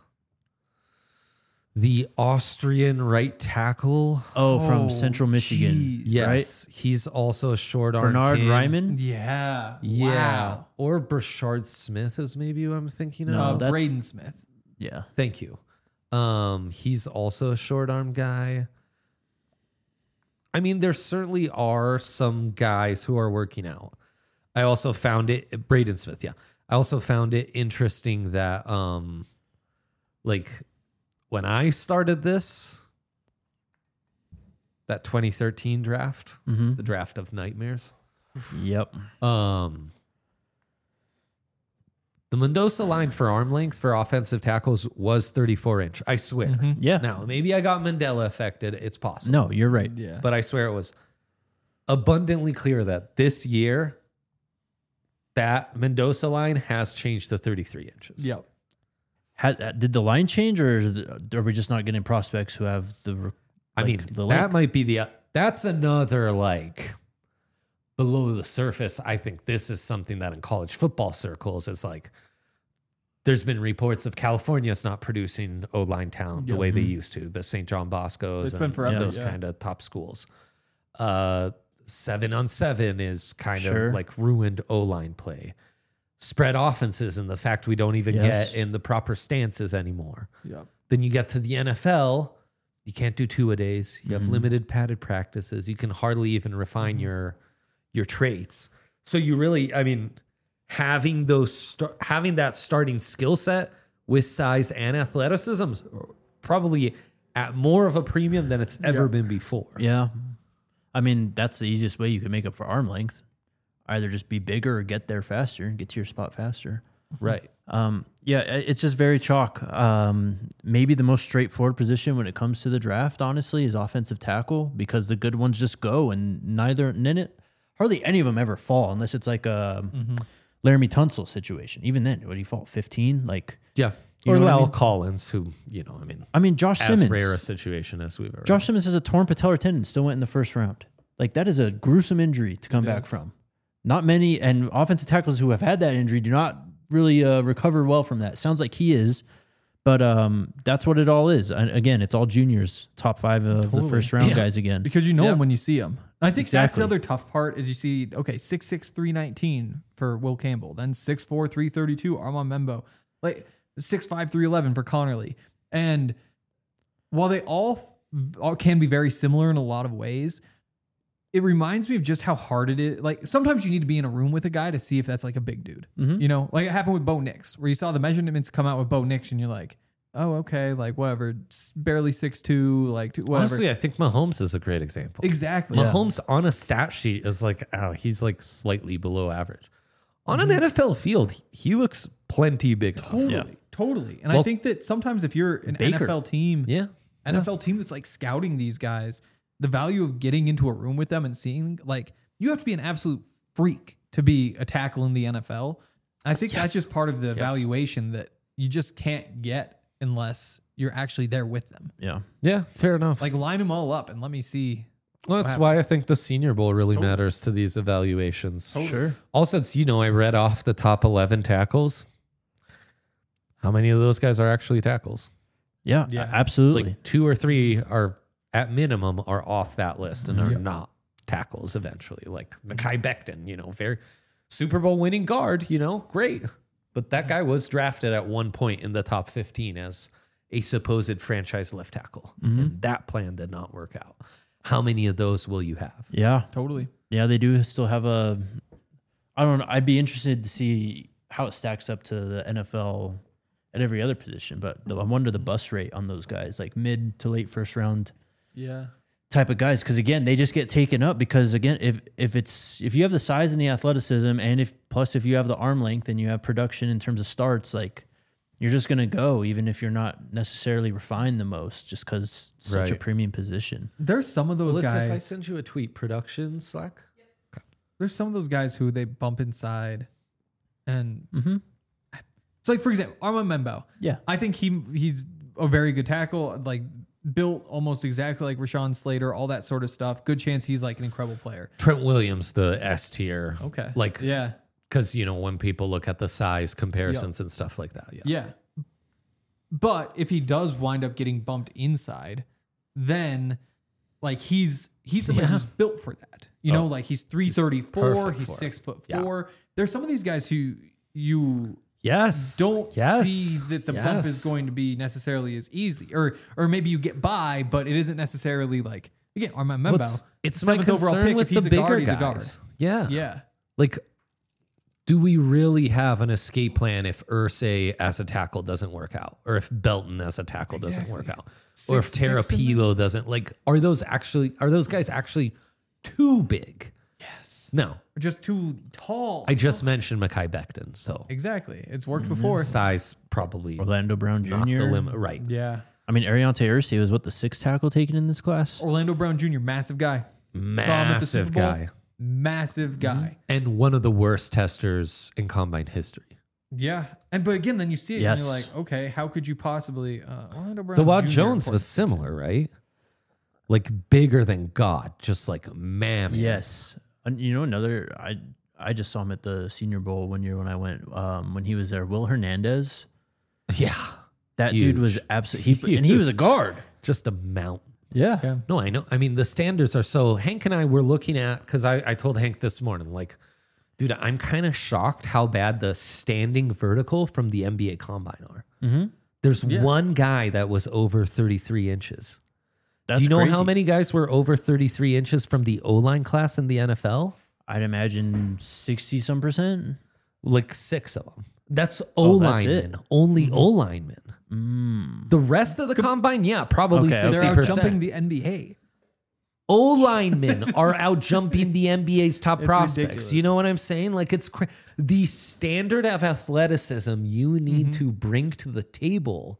the Austrian right tackle. Oh, from Central Michigan. geez. Yes, he's also a short arm. Bernard king. Ryman. Yeah. Yeah. Wow. Or Brashard Smith is maybe who I'm thinking of. No, that's- Braden Smith. Yeah. Thank you. He's also a short arm guy. I mean, there certainly are some guys who are working out. I also found it Braden Smith, yeah. I also found it interesting that like when I started this, that 2013 draft, Mm-hmm. the draft of nightmares. Yep. The Mendoza line for arm length for offensive tackles was 34-inch. I swear. Mm-hmm. Yeah. Now, maybe I got Mandela affected. It's possible. No, you're right. Yeah. But I swear it was abundantly clear that this year, that Mendoza line has changed to 33 inches. Yep. Did the line change, or are we just not getting prospects who have the? I mean, the that length? might be that's another like below the surface. I think this is something that in college football circles is like, there's been reports of California's not producing O-line talent the way they used to, the St. John Boscos. It's been forever, Those yeah. kind of top schools. 7-on-7 is kind Sure. of like ruined O-line play. Spread offenses and the fact we don't even Yes. get in the proper stances anymore. Yep. Then you get to the NFL, you can't do two-a-days. You have limited padded practices. You can hardly even refine your traits. So you really, I mean, having having that starting skill set with size and athleticism is probably at more of a premium than it's ever been before. Yeah, I mean that's the easiest way you can make up for arm length. Either just be bigger or get there faster and get to your spot faster. Right. Yeah, it's just very chalk. Maybe the most straightforward position when it comes to the draft, honestly, is offensive tackle, because the good ones just go, and hardly any of them ever fall unless it's like a Laramie Tunsil situation. Even then, what do you fall? 15? Like, Yeah. You Or know what I Lal mean? Collins, who, Josh as Simmons. rare a situation as we've ever Josh Simmons has a torn patellar tendon, still went in the first round. Like, that is a gruesome injury to come back from. Not many, and offensive tackles who have had that injury do not really recover well from that. Sounds like he is, but that's what it all is. And again, it's all juniors, top 5 of the first round guys again. Because you know them when you see them. I think that's Exactly. the other tough part is you see, 6'6", 319 for Will Campbell, then 6'4", 332 Armand Membo, like 6'5", 311 for Connerly. And while they all can be very similar in a lot of ways, it reminds me of just how hard it is. Like, sometimes you need to be in a room with a guy to see if that's like a big dude. You know, like it happened with Bo Nix, where you saw the measurements come out with Bo Nix and you're like, oh, okay, like whatever, barely 6'2", like whatever. Honestly, I think Mahomes is a great example. Exactly. Mahomes on a stat sheet is like, he's like slightly below average. On an NFL field, he looks plenty big. Totally. And Well, I think that sometimes if you're an Baker. NFL team, NFL team that's like scouting these guys, the value of getting into a room with them and seeing, like, you have to be an absolute freak to be a tackle in the NFL. I think that's just part of the evaluation that you just can't get unless you're actually there with them. Yeah. Yeah, fair enough. Like, line them all up and let me see. Well, that's why I think the Senior Bowl really matters to these evaluations. Sure. Also, it's, I read off the top 11 tackles. How many of those guys are actually tackles? Yeah, absolutely. Like 2 or 3 are, at minimum, are off that list and are not tackles eventually. Like Mekhi Becton, very Super Bowl winning guard, great. But that guy was drafted at one point in the top 15 as a supposed franchise left tackle. And that plan did not work out. How many of those will you have? Yeah. Totally. Yeah, they do still have I don't know. I'd be interested to see how it stacks up to the NFL at every other position. But I wonder the bust rate on those guys, like mid to late first round Yeah. type of guys. Because again, they just get taken up because again, if you have the size and the athleticism, and if you have the arm length and you have production in terms of starts, like you're just gonna go, even if you're not necessarily refined the most, just because such a Right. premium position. There's some of those Melissa, if I guys. send you a tweet, production Slack? There's some of those guys who they bump inside, and so like for example, Armand Membo. Yeah. I think he's a very good tackle, like built almost exactly like Rashawn Slater, all that sort of stuff. Good chance he's like an incredible player. Trent Williams, the S tier. Okay. Like, Yeah. because, when people look at the size comparisons and stuff like that. Yeah. Yeah. But if he does wind up getting bumped inside, then like he's somebody who's built for that. Like he's 334, perfect he's for it. 6'4". There's some of these guys who you Yes. don't Yes. see that the bump is going to be necessarily as easy, or maybe you get by, but it isn't necessarily like, again, Armand Membo. It's my 7th overall concern pick. with If he's the a bigger guard, he's a guys. guard. Yeah. Yeah. Like, do we really have an escape plan if Ursay as a tackle doesn't work out, or if Belton as a tackle doesn't work out, or if 6'6" Terapilo doesn't? Like, are those guys actually too big? Yes. No. Or just too tall. I just mentioned Mekhi Becton, so Exactly. It's worked before. size probably Orlando Brown Jr. not the limit. Right. Yeah. I mean, Ariante Ursay was the 6th tackle taken in this class. Orlando Brown Jr., massive guy. Massive Super Bowl. guy. massive guy. And one of the worst testers in combine history. Yeah. But again, then you see it Yes. and you're like, okay, how could you possibly Orlando Brown The Wild Jr. Jones was similar, right? Like bigger than God, just like mammoth. Yes. And you know, another, I just saw him at the Senior Bowl one year when I went, when he was there. Will Hernandez. Yeah. That Huge. dude was absolutely, and he was a guard. Just a mountain. Yeah. No, I know. I mean, the standards are so. Hank and I were looking at, because I told Hank this morning, like, dude, I'm kind of shocked how bad the standing vertical from the NBA combine are. Mm-hmm. There's one guy that was over 33 inches. That's Do you know crazy. how many guys were over 33 inches from the O-line class in the NFL? I'd imagine 60 some percent. Like 6 of them. That's that's O-linemen. it. Only O-linemen. The rest of the combine, probably Okay, okay. 60%. They're out jumping the NBA. O-linemen are out jumping the NBA's top prospects. ridiculous. You know what I'm saying? Like it's the standard of athleticism you need to bring to the table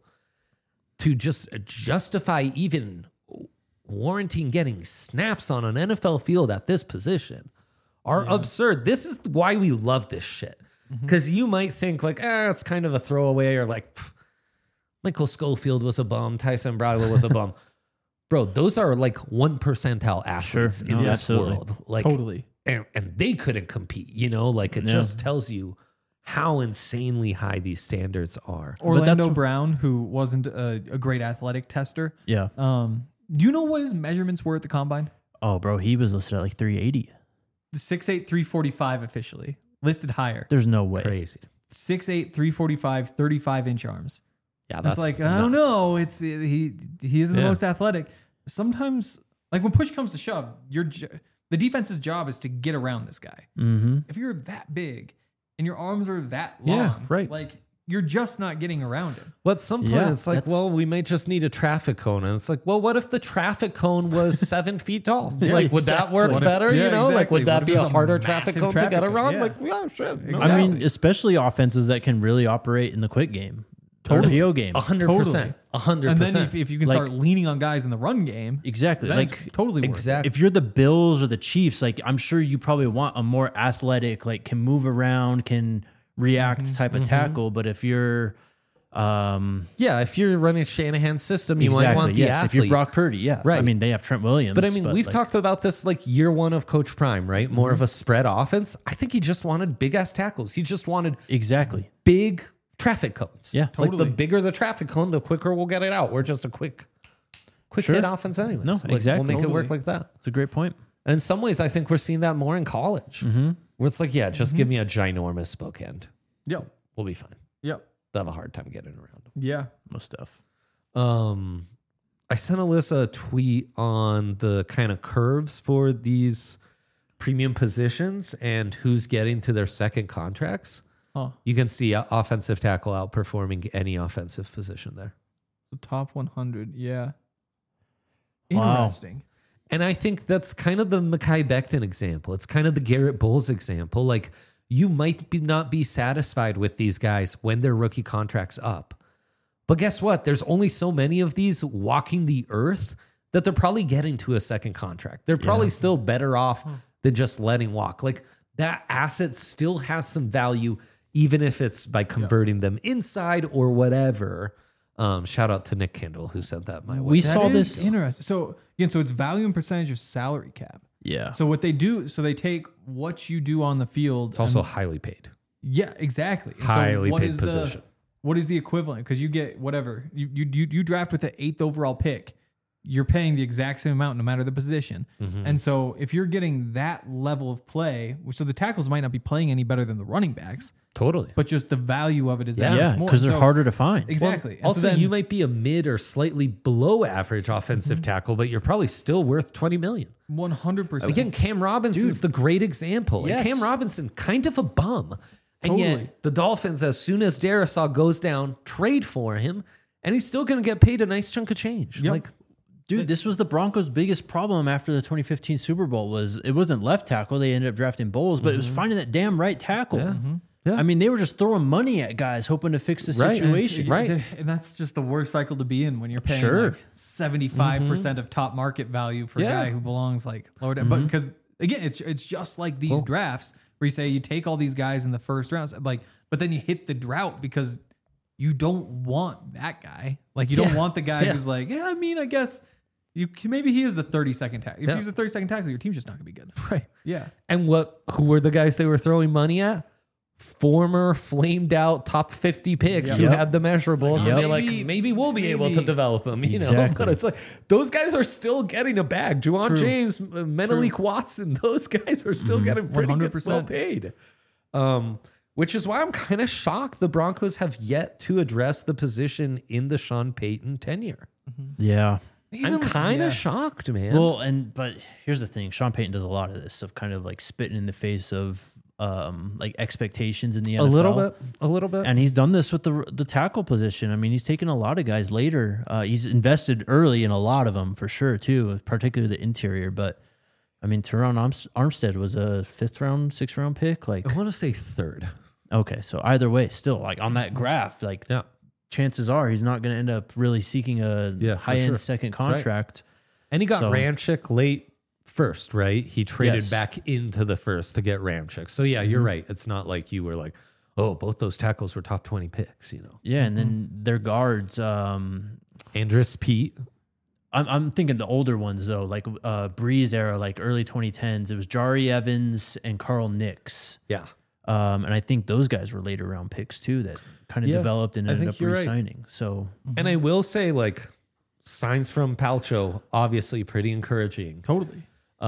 to just justify even warranting getting snaps on an NFL field at this position are absurd. This is why we love this shit. Because you might think like, it's kind of a throwaway, or like Michael Schofield was a bum, Tyson Bradley was a bum. Bro, those are like 1 percentile athletes Sure. in No, this absolutely. world. Like, Totally. and they couldn't compete, you know? Like it just tells you how insanely high these standards are. Orlando Brown, who wasn't a great athletic tester. Yeah. Do you know what his measurements were at the combine? Oh, bro, he was listed at like 380. The 6'8", 345 officially. Listed higher. There's no way. Crazy. 6'8", 345, 35-inch arms. Yeah, That's like, I don't know. It's he isn't the Yeah. most athletic. Sometimes, like when push comes to shove, the defense's job is to get around this guy. Mm-hmm. If you're that big and your arms are that long, Yeah, right. like you're just not getting around him. But at some point, Yeah, it's like, that's- well, we may just need a traffic cone. And it's like, well, what if the traffic cone was 7 feet tall? Yeah, like, would that work What if- better? yeah, you know, like, exactly. would that What if be it a was a harder traffic massive cone to get traffic cone? around? Yeah. Like, yeah, shit. No Exactly. I mean, especially offenses that can really operate in the quick game. Totally. RPO game. 100%. 100%. And then if you can Like- start leaning on guys in the run game, Exactly. then Like, it's totally worth it. exactly. if you're the Bills or the Chiefs, like I'm sure you probably want a more athletic, like can move around, can react type of tackle. But if you're, Yeah, if you're running Shanahan's system, you might want the yes. athlete. If you're Brock Purdy, yeah, Right. I mean, they have Trent Williams, But I mean, we've like, talked about this like year one of Coach Prime, right? More of a spread offense. I think he just wanted big ass tackles. He just wanted exactly. big traffic cones. Yeah, Like the totally. bigger the traffic cone, the quicker we'll get it out. We're just a quick Sure. hit offense anyways. No, Like, exactly. We'll make it work Totally. like that. It's a great point. And in some ways, I think we're seeing that more in college. Where it's like, yeah, just give me a ginormous bookend. Yep. We'll be fine. Yep. They'll have a hard time getting around them. Yeah. Most stuff. I sent Alyssa a tweet on the kind of curves for these premium positions and who's getting to their second contracts. Huh. You can see offensive tackle outperforming any offensive position there. The top 100. Yeah. Wow. Interesting. And I think that's kind of the Mekhi Becton example. It's kind of the Garrett Bowles example. Like you might not be satisfied with these guys when their rookie contract's up. But guess what? There's only so many of these walking the earth that they're probably getting to a second contract. They're probably still better off than just letting walk. Like that asset still has some value, even if it's by converting them inside or whatever. Shout out to Nick Kindle who sent that my way. We That saw is this. interesting. So again, so it's value and percentage of salary cap. Yeah. So what they do, so they take what you do on the field. It's also highly paid. Yeah, exactly. And so Highly what paid is position. What is the equivalent? Because you get whatever you draft with the 8th overall pick, you're paying the exact same amount no matter the position. And so if you're getting that level of play, so the tackles might not be playing any better than the running backs, Totally. but just the value of it is that Yeah, much more. because they're So- harder to find. Exactly. And so Also, then- you might be a mid or slightly below average offensive tackle, but you're probably still worth $20 million. 100%. Again, Cam Robinson's the great example. Yes. And Cam Robinson, kind of a bum. And Totally. yet the Dolphins, as soon as Darisaw goes down, trade for him, and he's still going to get paid a nice chunk of change. Yep. Like, Dude, this was the Broncos' biggest problem after the 2015 Super Bowl was it wasn't left tackle. They ended up drafting Bowles, but it was finding that damn right tackle. Yeah. I mean, they were just throwing money at guys hoping to fix the Right. situation. Right. And that's just the worst cycle to be in when you're paying Sure. like 75% of top market value for a Yeah. guy who belongs like lower down. But because again, it's just like these drafts where you say you take all these guys in the first rounds, like, but then you hit the drought because you don't want that guy. Like, you don't want the guy who's like, yeah, I mean, I guess maybe he is the 32nd tackle. If he's the 32nd tackle, your team's just not gonna be good. Right. Yeah. And who were the guys they were throwing money at? Former flamed out top 50 picks who had the measurables, and they're like, maybe we'll be able to develop them, you know. But it's like those guys are still getting a bag. Juwan James, Menelik Watson, those guys are still getting pretty good, well paid. Which is why I'm kind of shocked the Broncos have yet to address the position in the Sean Payton tenure. Yeah. I'm kind of shocked, man. Well, but here's the thing: Sean Payton does a lot of this, of kind of like spitting in the face of like expectations in the NFL. A little bit. And he's done this with the tackle position. I mean, he's taken a lot of guys later. He's invested early in a lot of them for sure too, particularly the interior. But I mean, Teron Armstead was a 5th round, 6th round pick. Like, I want to say 3rd. Okay, so either way, still like on that graph, like chances are he's not going to end up really seeking a high end second contract. Right. And he got Ramczyk late first, right? He traded back into the first to get Ramczyk. So yeah, you're right. It's not like you were like, oh, both those tackles were top 20 picks, you know? Yeah, and then their guards, Andrus Peat. I'm thinking the older ones though, like Breeze era, like early 2010s. It was Jari Evans and Carl Nix. Yeah. And I think those guys were later round picks too that kind of developed and ended up re-signing. Right. So, and I will say, like, signs from Palcho, obviously pretty encouraging. Totally.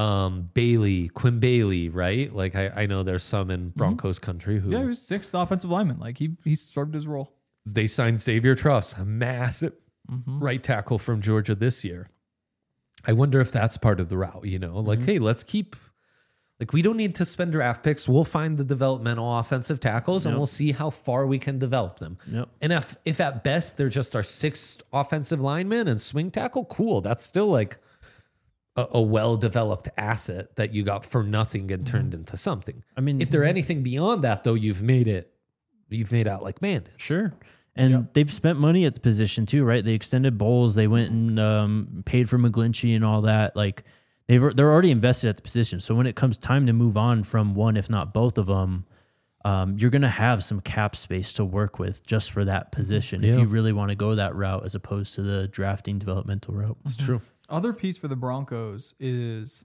Quinn Bailey, right? Like, I know there's some in Broncos country who... Yeah, he was 6th offensive lineman. Like, he served his role. They signed Xavier Truss, a massive right tackle from Georgia this year. I wonder if that's part of the route, you know? Like, hey, let's keep... Like, we don't need to spend draft picks. We'll find the developmental offensive tackles, and we'll see how far we can develop them. Yep. And if at best they're just our 6th offensive lineman and swing tackle, cool. That's still like a well-developed asset that you got for nothing and turned into something. I mean, if they're anything beyond that, though, you've made out like bandits. Sure. And they've spent money at the position too, right? They extended Bowles. They went and paid for McGlinchey and all that. Like, they're already invested at the position. So when it comes time to move on from one, if not both of them, you're going to have some cap space to work with just for that position if you really want to go that route as opposed to the drafting developmental route. It's true. Other piece for the Broncos is,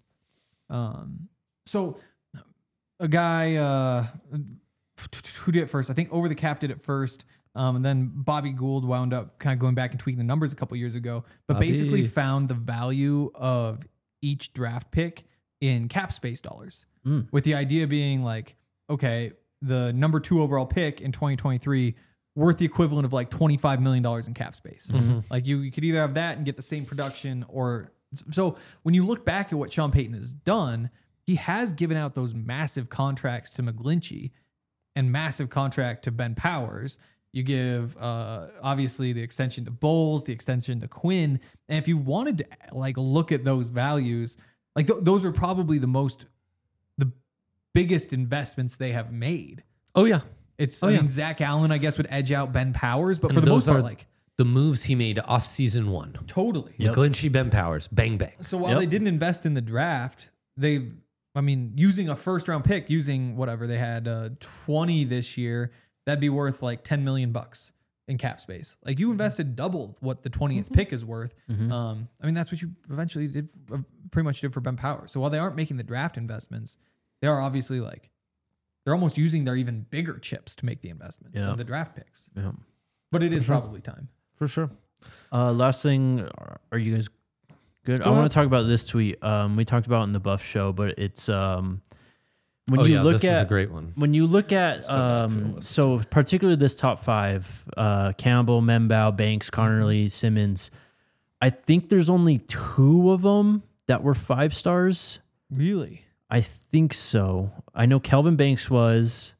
so a guy who did it first, I think Over the Cap did it first. And then Bobby Gould wound up kind of going back and tweaking the numbers a couple years ago, but basically found the value of each draft pick in cap space dollars, with the idea being like, okay, the number 2 overall pick in 2023 worth the equivalent of like $25 million in cap space. Like you could either have that and get the same production, or so when you look back at what Sean Payton has done, he has given out those massive contracts to McGlinchey and massive contract to Ben Powers. You give obviously the extension to Bowles, the extension to Quinn. And if you wanted to like look at those values, like those are probably the biggest investments they have made. Oh yeah. I mean, Zach Allen, I guess, would edge out Ben Powers, but for the most part, like the moves he made off season 1. Totally. McGlinchey, Ben Powers, bang, bang. So while they didn't invest in the draft, using a 1st round pick, using whatever they had 20 this year, that'd be worth like $10 million in cap space. Like, you invested double what the 20th pick is worth. That's what you eventually did, pretty much did for Ben Powers. So while they aren't making the draft investments, they are obviously like, they're almost using their even bigger chips to make the investments than the draft picks. Yeah. But it is probably time. For sure. Last thing, are you guys good? I want to talk about this tweet. We talked about it in the Buff Show, but it's when you look this is a great one. When you look at so particularly this top 5, Campbell, Membao, Banks, Connerly, Simmons, I think there's only 2 of them that were 5 stars. Really? I think so. I know Kelvin Banks was.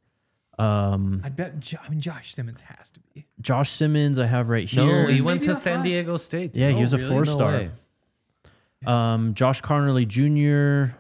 I bet. Josh Simmons has to be. Josh Simmons, I have right here. No, he went to San Diego State. Yeah, he was a 4-star. Josh Connerly Jr.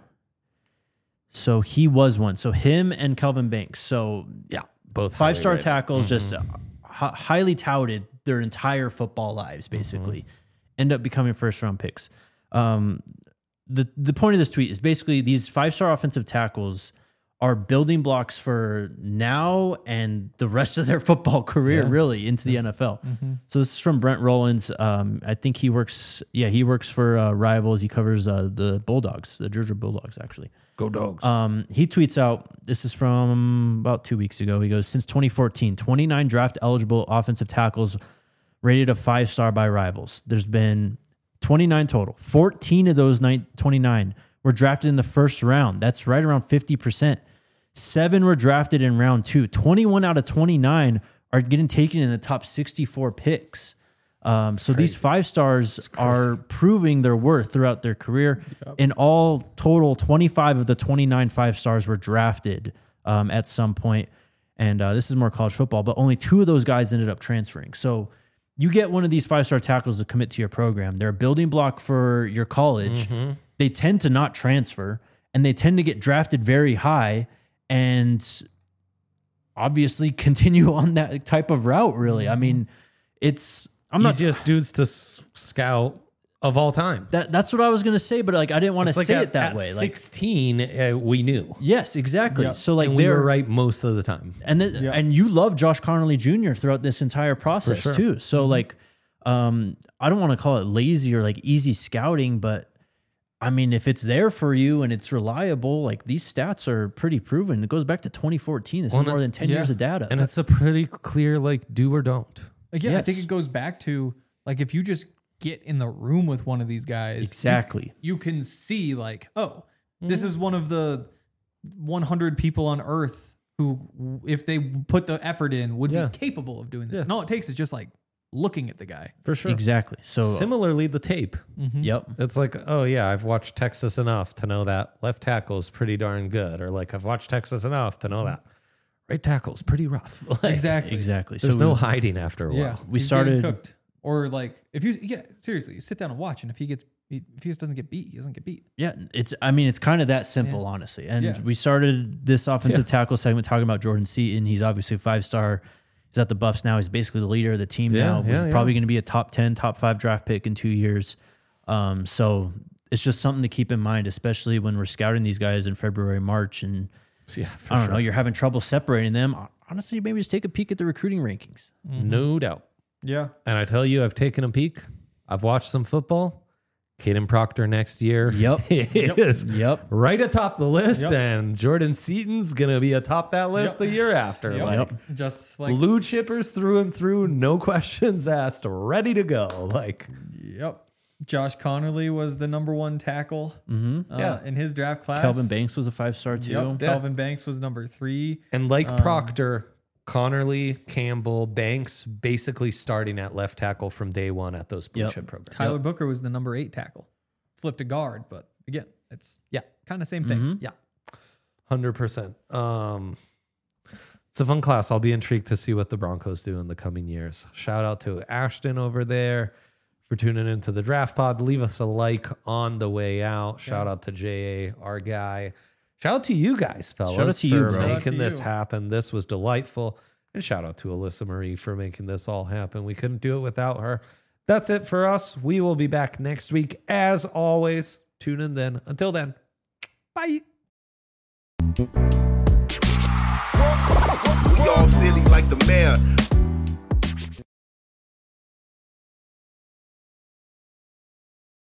So he was one. So him and Kelvin Banks. So yeah, both 5-star tackles, just highly touted their entire football lives, basically, end up becoming 1st round picks. the point of this tweet is basically these 5-star offensive tackles are building blocks for now and the rest of their football career, really, into the NFL. So this is from Brent Rollins. I think he works for Rivals. He covers the Bulldogs, the Georgia Bulldogs, actually. Go Dogs. He tweets out, this is from about 2 weeks ago. He goes, since 2014, 29 draft-eligible offensive tackles rated a 5-star by Rivals. There's been 29 total. 14 of those 29 were drafted in the first round. That's right around 50%. 7 were drafted in round 2. 21 out of 29 are getting taken in the top 64 picks. So these 5-stars are proving their worth throughout their career. In all total, 25 of the 29 5-stars were drafted at some point. And this is more college football, but only 2 of those guys ended up transferring. So you get one of these 5-star tackles to commit to your program. They're a building block for your college. They tend to not transfer, and they tend to get drafted very high and obviously continue on that type of route, really. I mean, I'm not easiest dudes to scout of all time. That's what I was gonna say, but like I didn't want to say it that way. At Like 16, we knew. yes, exactly. Yep. So like And we were right most of the time. and and you love Josh Connolly Jr. throughout this entire process sure. too. So like, I don't want to call it lazy or like easy scouting, but I mean, if it's there for you and it's reliable, like these stats are pretty proven. It goes back to 2014. This is more than 10 years of data. And it's a pretty clear, like, do or don't. Again, I think Yes. it goes back to like if you just get in the room with one of these guys, exactly. you can see like, oh, this is one of the 100 people on Earth who, if they put the effort in, would Yeah. be capable of doing this. Yeah. And all it takes is just like looking at the guy. For sure. Exactly. So Similarly, the tape. yep. It's like, oh, yeah, I've watched Texas enough to know that left tackle is pretty darn good. Or like, I've watched Texas enough to know that right tackle is pretty rough. Like, Exactly. There's So no hiding after a while. Yeah, We he's getting started- cooked. Or like if you seriously, you sit down and watch, and if he just doesn't get beat, he doesn't get beat. Yeah, it's kind of that simple, honestly. And Yeah. we started this offensive tackle segment talking about Jordan Seaton. He's obviously a 5-star. He's at the Buffs now. He's basically the leader of the team now. He's probably going to be a top 10, top 5 draft pick in 2 years. So it's just something to keep in mind, especially when we're scouting these guys in February, March, and Yeah, for I don't know, you're having trouble separating them. Honestly, maybe just take a peek at the recruiting rankings. No doubt. Yeah. And I tell you, I've taken a peek. I've watched some football. Caden Proctor next year. Yep. is Yep. right atop the list. Yep. And Jordan Seaton's going to be atop that list the year after. Like, Just like blue chippers through and through, no questions asked, ready to go. Like, yep. Josh Connolly was the number 1 tackle in his draft class. Kelvin Banks was a 5-star too. Yep. Kelvin Banks was number 3. and like Proctor, Connerly, Campbell, Banks, basically starting at left tackle from day one at those blue chip programs. Tyler Booker was the number 8 tackle. Flipped to guard, but again, it's kind of same thing. Yeah, 100%. It's a fun class. I'll be intrigued to see what the Broncos do in the coming years. Shout out to Ashton over there for tuning into the Draft Pod. Leave us a like on the way out. Shout out to JA, our guy. Shout out to you guys, fellas, Shout out to you, for bro. making Shout out to this you. happen. This was delightful. And shout out to Alyssa Marie for making this all happen. We couldn't do it without her. That's it for us. We will be back next week. As always, tune in then. Until then, bye. We all silly like the mayor.